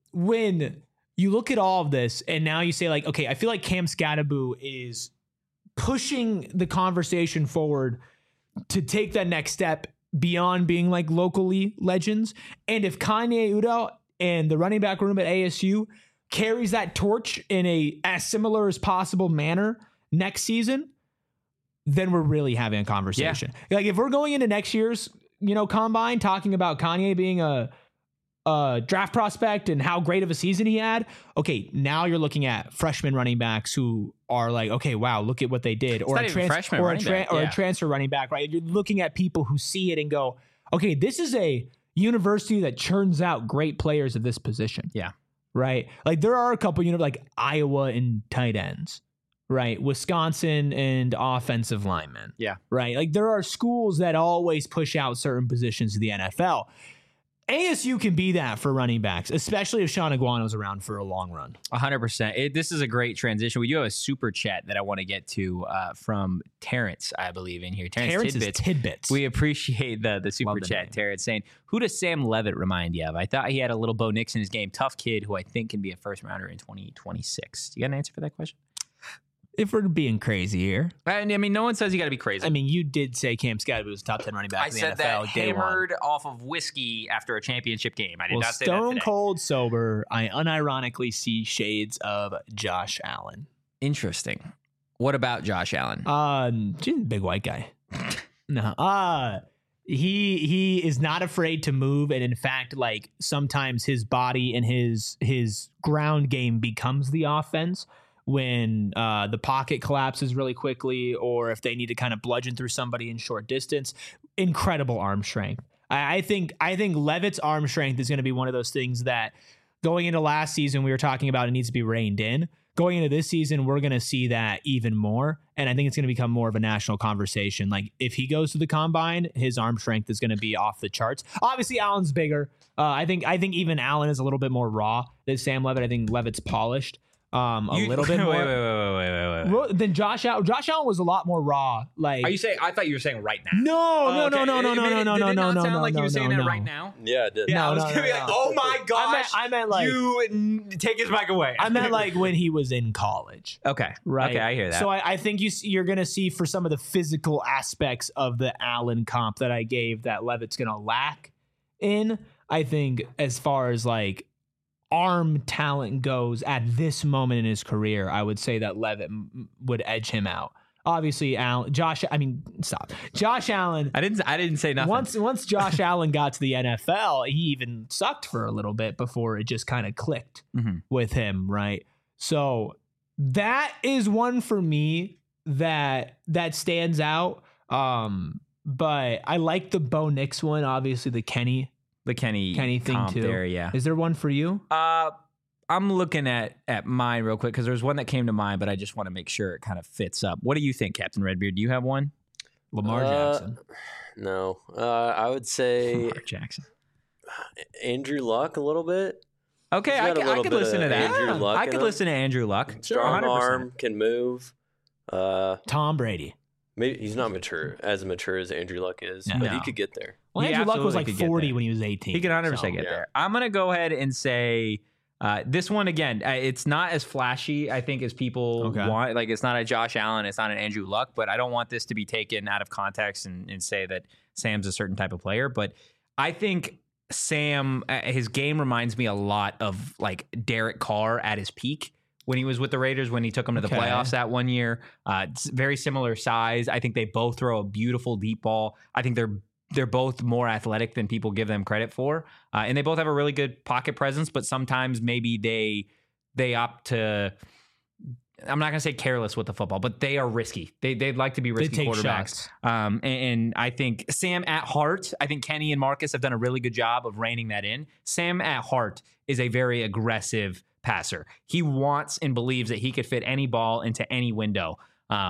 when you look at all of this and now you say like, okay, I feel like Cam Skattebo is pushing the conversation forward to take that next step beyond being like locally legends. And if Kanye Udall and the running back room at ASU carries that torch in a as similar as possible manner next season, then we're really having a conversation. Yeah. Like if we're going into next year's, combine talking about Kanye being a draft prospect and how great of a season he had. Okay, now you're looking at freshman running backs who are like, okay, wow, look at what they did, or a transfer running back, right? You're looking at people who see it and go, okay, this is a university that churns out great players of this position. Yeah. Right. Like there are a couple, like Iowa and tight ends. right? Wisconsin and offensive linemen. Yeah. Right. Like there are schools that always push out certain positions to the NFL. ASU can be that for running backs, especially if Sean Iguano's around for a long run. 100%. This is a great transition. We do have a super chat that I want to get to from Terrence, I believe, in here. Terrence is Tidbits. We appreciate the super chat. name. Terrence saying, who does Sam Levitt remind you of? I thought he had a little Bo Nix in his game. Tough kid who I think can be a first rounder in 2026. Do you got an answer for that question? If we're being crazy here. I mean, no one says you got to be crazy. I mean, you did say Cam Scadby was a top 10 running back I in the said NFL that day one. hammered off of whiskey after a championship game. I did Well, not say that stone today. cold sober, I unironically see shades of Josh Allen. Interesting. What about Josh Allen? She's a big white guy. No. He is not afraid to move, and in fact, like sometimes his body and his ground game becomes the offense when the pocket collapses really quickly, or if they need to kind of bludgeon through somebody in short distance. Incredible arm strength. I think Levitt's arm strength is going to be one of those things that going into last season we were talking about it needs to be reined in. Going into this season, we're going to see that even more. And I think it's going to become more of a national conversation. Like if he goes to the combine, his arm strength is going to be off the charts. Obviously, Allen's bigger. I think even Allen is a little bit more raw than Sam Levitt. I think Levitt's polished a little bit more. Wait. Then Josh Allen. Josh Allen was a lot more raw. Like, Are you saying? I thought you were saying right now. no. Did it not sound like you were saying that no. right now? Yeah, it did. Yeah, I was No, gonna be like, no. oh my gosh. I meant like you take his mic away. I meant like when he was in college. okay, Right. Okay, I hear that. So I think you're going to see for some of the physical aspects of the Allen comp that I gave that Levitt's going to lack in. I think as far as like arm talent goes at this moment in his career, I would say that Levitt would edge him out. Obviously, Josh Allen. I didn't say nothing. Once Josh Allen got to the NFL, he even sucked for a little bit before it just kind of clicked with him, right? So that is one for me that stands out. But I like the Bo Nix one, obviously the Kenny thing comp too. there, yeah. Is there one for you? I'm looking at mine real quick because there's one that came to mind, but I just want to make sure it kind of fits up. What do you think, Captain Redbeard? Do you have one? Lamar Jackson. No. I would say Lamar Jackson. Andrew Luck a little bit. Okay, He's I got a little could bit listen to of that. Andrew Luck I in could him. listen to Andrew Luck. Strong 100%. arm, can move. Tom Brady. Maybe he's not mature as Andrew Luck is, but No. he could get there. Well, He Andrew Luck was absolutely like could get 40 there. when he was 18. He can 100% so. get yeah. there. I'm going to go ahead and say this one again. It's not as flashy, I think, as people want. Like, it's not a Josh Allen. It's not an Andrew Luck. But I don't want this to be taken out of context and say that Sam's a certain type of player. But I think Sam, his game reminds me a lot of, like, Derek Carr at his peak when he was with the Raiders, when he took them to the playoffs that one year. It's very similar size. I think they both throw a beautiful deep ball. I think they're both more athletic than people give them credit for. And they both have a really good pocket presence, but sometimes maybe they opt to, I'm not going to say careless with the football, but they are risky. They'd like to be risky take quarterbacks. shots. And I think Sam at heart, I think Kenny and Marcus have done a really good job of reining that in. Sam at heart is a very aggressive passer. He wants and believes that he could fit any ball into any window.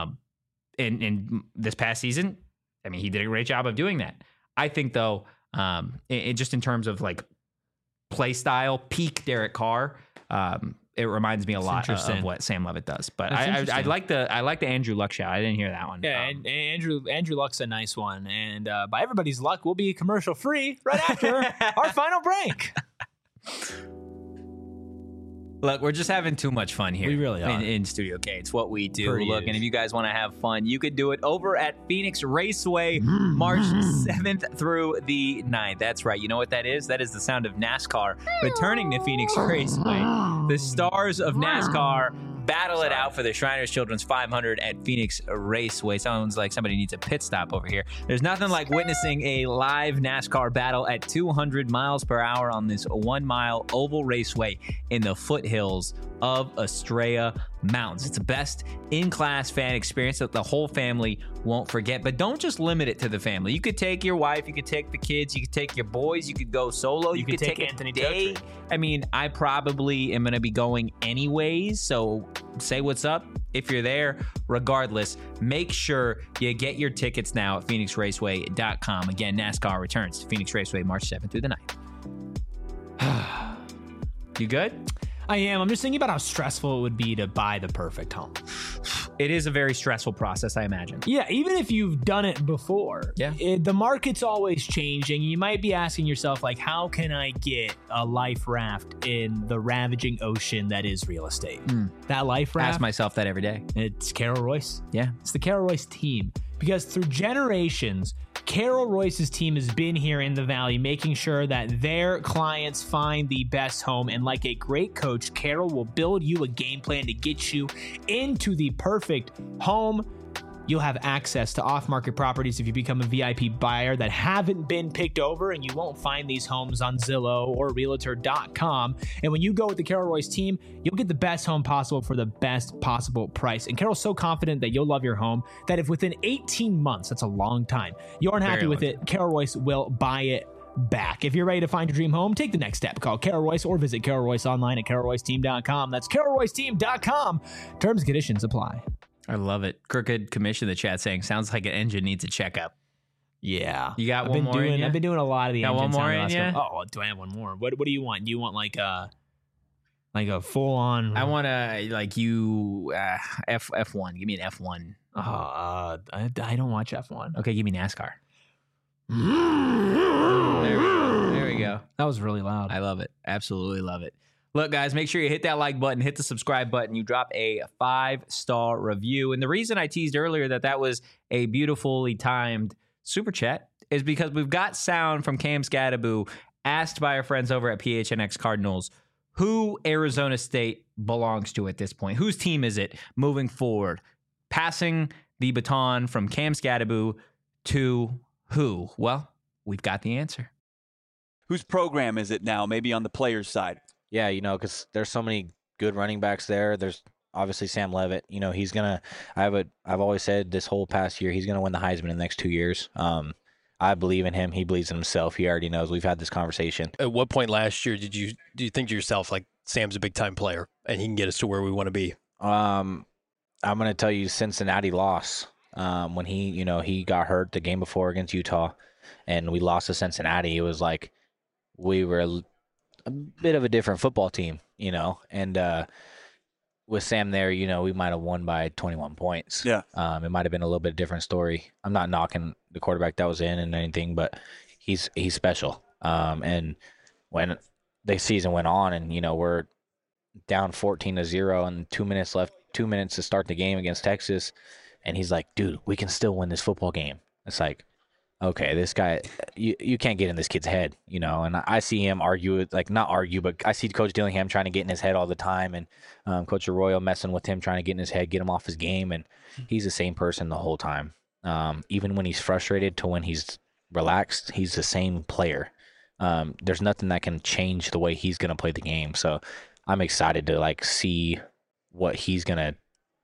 In this past season, I mean, he did a great job of doing that. I think, though, just in terms of like play style, peak Derek Carr, it reminds me a lot of what Sam Levitt does. But I like the Andrew Luck shot. I didn't hear that one. Yeah, and Andrew Luck's a nice one. And by everybody's luck, we'll be commercial free right after our final break. Look, we're just having too much fun here. We really are. In Studio K. It's what we do. Pretty Look, is. and if you guys want to have fun, you could do it over at Phoenix Raceway, March 7th through the 9th. That's right. You know what that is? That is the sound of NASCAR returning to Phoenix Raceway. The stars of NASCAR battle it out for the Shriners Children's 500 at Phoenix Raceway. Sounds like somebody needs a pit stop over here. There's nothing like witnessing a live NASCAR battle at 200 miles per hour on this 1 mile oval raceway in the foothills of Estrella Mountains. It's the best in-class fan experience that the whole family won't forget. But don't just limit it to the family. You could take your wife, you could take the kids, you could take your boys, you could go solo, you could take Anthony a day. Gotry. I mean, I probably am going to be going anyways, so say what's up if you're there. Regardless, make sure you get your tickets now at PhoenixRaceway.com. Again, NASCAR returns to Phoenix Raceway March 7th through the 9th. You good? I am. I'm just thinking about how stressful it would be to buy the perfect home. It is a very stressful process, I imagine. Yeah, even if you've done it before, the market's always changing. You might be asking yourself, like, how can I get a life raft in the ravaging ocean that is real estate? That life raft, Ask myself that every day. it's Carol Royce. Yeah. It's the Carol Royce team. Because through generations, Carol Royce's team has been here in the Valley, making sure that their clients find the best home. And like a great coach, Carol will build you a game plan to get you into the perfect home. You'll have access to off-market properties if you become a VIP buyer that haven't been picked over, and you won't find these homes on Zillow or Realtor.com. And when you go with the Carol Royce team, you'll get the best home possible for the best possible price. And Carol's so confident that you'll love your home that if within 18 months, that's a long time, you aren't happy with it, Carol Royce will buy it back. If you're ready to find your dream home, take the next step. Call Carol Royce or visit Carol Royce online at CarolRoyceTeam.com. That's CarolRoyceTeam.com. Terms and conditions apply. I love it. Crooked Commission in the chat saying, sounds like an engine needs a checkup. Yeah. You got one more in ya? I've been doing a lot of the Got engine one more sound in ya? Oh, do I have one more? What do you want? Do you want like a full on? I want to F1. Give me an F1. I don't watch F1. Okay, give me NASCAR. There we go. That was really loud. I love it. Absolutely love it. Look, guys, make sure you hit that like button, hit the subscribe button. You drop a 5-star review. And the reason I teased earlier that was a beautifully timed super chat is because we've got sound from Cam Scadaboo asked by our friends over at PHNX Cardinals who Arizona State belongs to at this point. Whose team is it moving forward? Passing the baton from Cam Scadaboo to who? Well, we've got the answer. Whose program is it now? Maybe on the players' side. Yeah, because there's so many good running backs there. There's obviously Sam Levitt. He's gonna. I've always said this whole past year he's gonna win the Heisman in the next 2 years. I believe in him. He believes in himself. He already knows. We've had this conversation. At what point last year do you think to yourself, like, Sam's a big time player and he can get us to where we want to be? I'm gonna tell you Cincinnati loss when he got hurt the game before against Utah, and we lost to Cincinnati. It was like we were a bit of a different football team, and with Sam there, we might have won by 21 points. Yeah. It might have been a little bit different story. I'm not knocking the quarterback that was in and anything, but he's special. And when the season went on and, we're down 14-0 and 2 minutes left, 2 minutes to start the game against Texas, and he's like, dude, we can still win this football game. It's like, okay, this guy, you can't get in this kid's head, and I see him not argue, but I see Coach Dillingham trying to get in his head all the time, and Coach Arroyo messing with him, trying to get in his head, get him off his game, and he's the same person the whole time. Even when he's frustrated to when he's relaxed, he's the same player. There's nothing that can change the way he's going to play the game, so I'm excited to, see what he's going to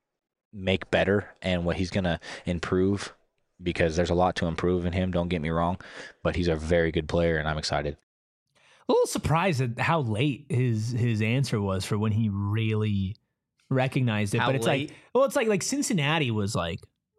make better and what he's going to improve, because there's a lot to improve in him, don't get me wrong, but he's a very good player, and I'm excited. A little surprised at how late his answer was for when he really recognized it. How but it's late? it's like Cincinnati was like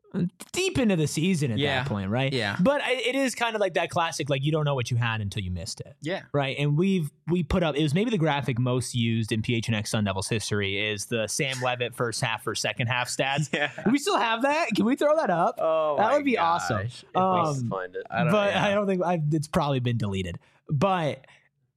deep into the season at that point, right? Yeah. But it is kind of like that classic, like, you don't know what you had until you missed it. Yeah. Right. And we put up, it was maybe the graphic most used in PHNX Sun Devils history is the Sam Levitt first half for second half stats. Yeah. Do we still have that? Can we throw that up? Oh, that would be awesome. If we can find it. I don't think it's probably been deleted. But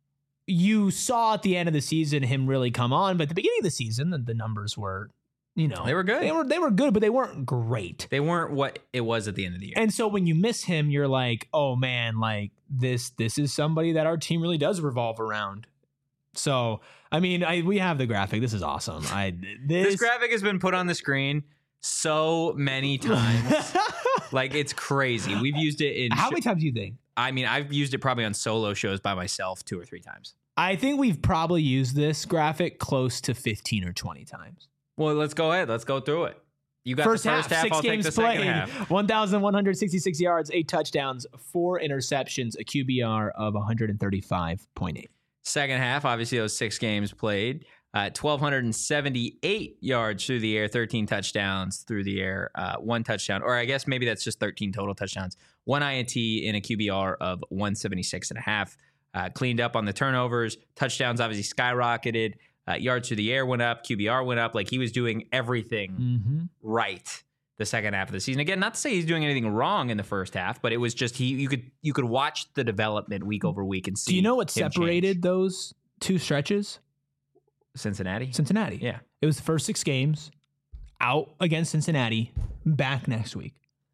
you saw at the end of the season him really come on. But at the beginning of the season, the numbers were, they were good. They were good, but they weren't great. They weren't what it was at the end of the year. And so when you miss him, you're like, oh man, like this is somebody that our team really does revolve around. So, I mean, we have the graphic. This is awesome. This graphic has been put on the screen so many times. Like, it's crazy. We've used it in... How many times do you think? I mean, I've used it probably on solo shows by myself 2 or 3 times. I think we've probably used this graphic close to 15 or 20 times. Well, let's go ahead. Let's go through it. You got First the first half. 6 I'll take games the second played, half. 1,166 yards, 8 touchdowns, 4 interceptions, a QBR of 135.8. Second half, obviously, those 6 games played. 1,278 yards through the air, 13 touchdowns through the air, 1 touchdown, or I guess maybe that's just 13 total touchdowns, 1 INT in a QBR of 176.5. Cleaned up on the turnovers, touchdowns obviously skyrocketed, yards through the air went up, QBR went up. Like, he was doing everything right the second half of the season. Again, not to say he's doing anything wrong in the first half, but it was just you could watch the development week over week and see. Do you know what him separated change. those 2 stretches? Cincinnati? Cincinnati. Yeah. It was the first 6 games, out against Cincinnati, back next week.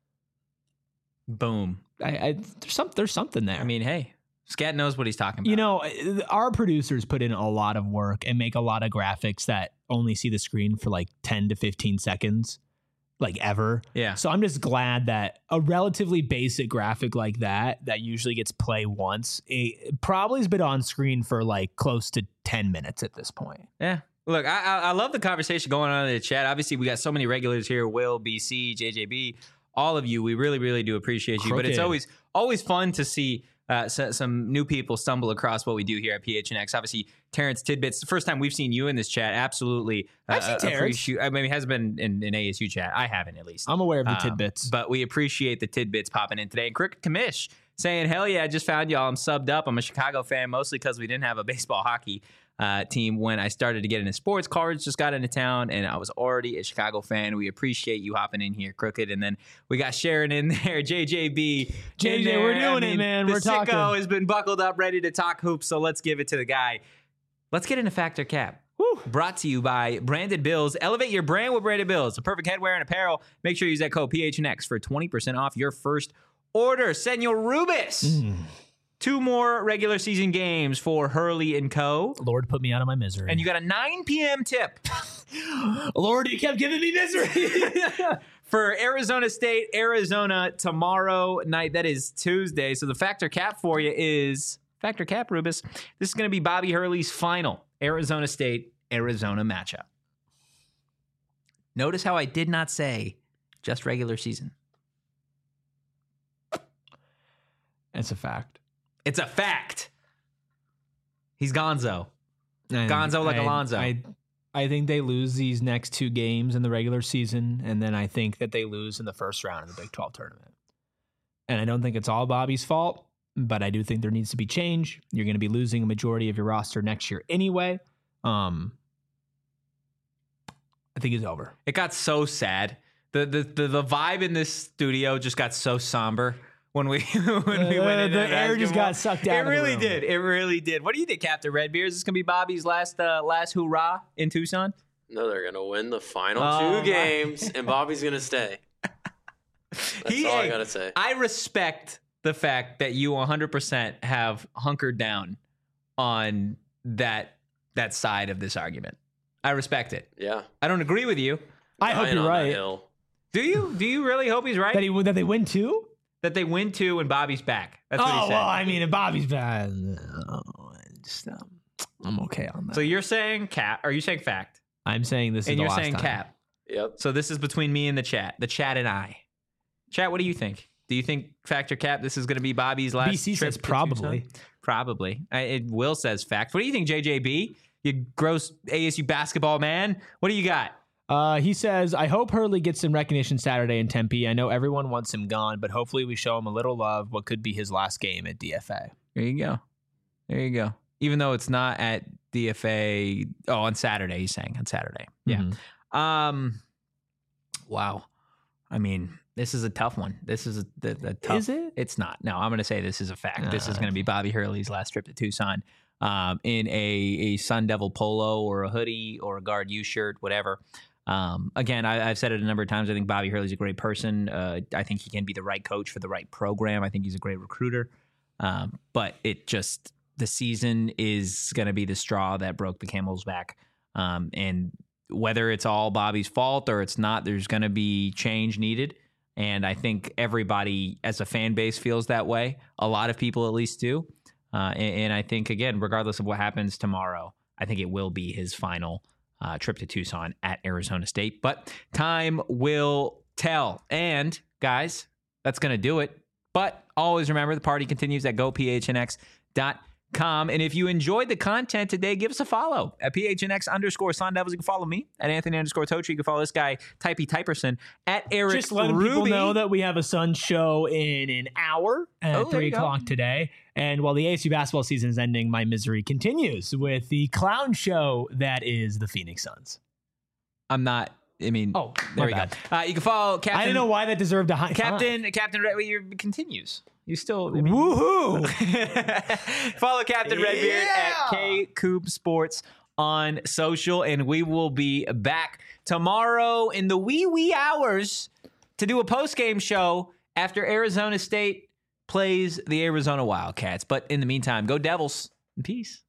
Boom. There's something there. I mean, hey, Scat knows what he's talking about. You know, our producers put in a lot of work and make a lot of graphics that only see the screen for like 10 to 15 seconds, like ever. Yeah. So I'm just glad that a relatively basic graphic like that usually gets play once, it probably has been on screen for like close to 10 minutes at this point. Yeah. Look, I love the conversation going on in the chat. Obviously, we got so many regulars here. Will, BC, JJB, all of you. We really, really do appreciate you. But it's always fun to see some new people stumble across what we do here at PHNX. Obviously, Terrence Tidbits, the first time we've seen you in this chat. Absolutely. I've seen Terrence. I mean, he hasn't been in ASU chat. I haven't, at least. I'm aware of the tidbits. But we appreciate the tidbits popping in today. And Cricket Commish saying, hell yeah, I just found y'all. I'm subbed up. I'm a Chicago fan, mostly because we didn't have a baseball hockey team when I started to get into sports. Cards just got into town, and I was already a Chicago fan. We appreciate you hopping in here, Crooked. And then we got Sharon in there, JJB. JJ, there. we're doing it, man. We're talking. The sicko has been buckled up, ready to talk hoops, so let's give it to the guy. Let's get into Factor Cap. Woo. Brought to you by Branded Bills. Elevate your brand with Branded Bills. The perfect headwear and apparel. Make sure you use that code PHNX for 20% off your first order. Senor Rubis. 2 more regular season games for Hurley and Co. Lord, put me out of my misery. And you got a 9 p.m. tip. Lord, you kept giving me misery. For Arizona State, Arizona tomorrow night. That is Tuesday. So the Factor Cap for you is Factor Cap, Rubis. This is going to be Bobby Hurley's final Arizona State, Arizona matchup. Notice how I did not say just regular season. It's a fact. It's a fact. He's Gonzo. Gonzo like Alonzo. I think they lose these next 2 games in the regular season, and then I think that they lose in the first round of the Big 12 tournament. And I don't think it's all Bobby's fault, but I do think there needs to be change. You're going to be losing a majority of your roster next year anyway. I think it's over. It got so sad. The vibe in this studio just got so somber. When we went in, the air just got sucked out. It really did. It really did. What do you think, Captain Redbeard? Is this gonna be Bobby's last hoorah in Tucson? No, they're gonna win the final 2 games, and Bobby's gonna stay. That's all I gotta say. I respect the fact that you 100% have hunkered down on that side of this argument. I respect it. Yeah. I don't agree with you. I hope you're right. Do you? Do you really hope he's right? That they win 2? That they win 2 and Bobby's back. That's what he said. Well, I mean, if Bobby's back, I'm okay on that. So you're saying cap? Or are you saying fact? I'm saying this is and the you're last saying time. cap. Yep. So this is between me and the chat and I. Chat, what do you think? Do you think Factor Cap? This is going to be Bobby's last BC trip says probably. to Tucson? Probably. Will says fact. What do you think, JJB? You gross ASU basketball man. What do you got? He says, I hope Hurley gets some recognition Saturday in Tempe. I know everyone wants him gone, but hopefully we show him a little love. What could be his last game at DFA? There you go. There you go. Even though it's not at DFA. Oh, on Saturday, he's saying. On Saturday. Yeah. Mm-hmm. Wow. I mean, this is a tough one. This is a tough. Is it? It's not. No, I'm going to say this is a fact. This is going to be Bobby Hurley's last trip to Tucson in a Sun Devil polo or a hoodie or a Guard U shirt, whatever. Again, I've said it a number of times. I think Bobby Hurley's a great person. I think he can be the right coach for the right program. I think he's a great recruiter. But the season is going to be the straw that broke the camel's back. And whether it's all Bobby's fault or it's not, there's going to be change needed. And I think everybody as a fan base feels that way. A lot of people at least do. And I think, again, regardless of what happens tomorrow, I think it will be his final trip to Tucson at Arizona State. But time will tell. And, guys, that's going to do it. But always remember, the party continues at gophnx.com. And if you enjoyed the content today, give us a follow at PHNX_Sun Devils. You can follow me at Anthony_Totri. You can follow this guy, Typey Typerson, at Eric Just letting Ruby. people know that we have a Suns show in an hour at 3 o'clock today. And while the ASU basketball season is ending, my misery continues with the clown show that is the Phoenix Suns. There we go. You can follow Captain. I don't know why that deserved a high Captain Red continues. You still woohoo! Follow Captain Redbeard at K Coop Sports on social, and we will be back tomorrow in the wee hours to do a post-game show after Arizona State plays the Arizona Wildcats. But in the meantime, go Devils. Peace.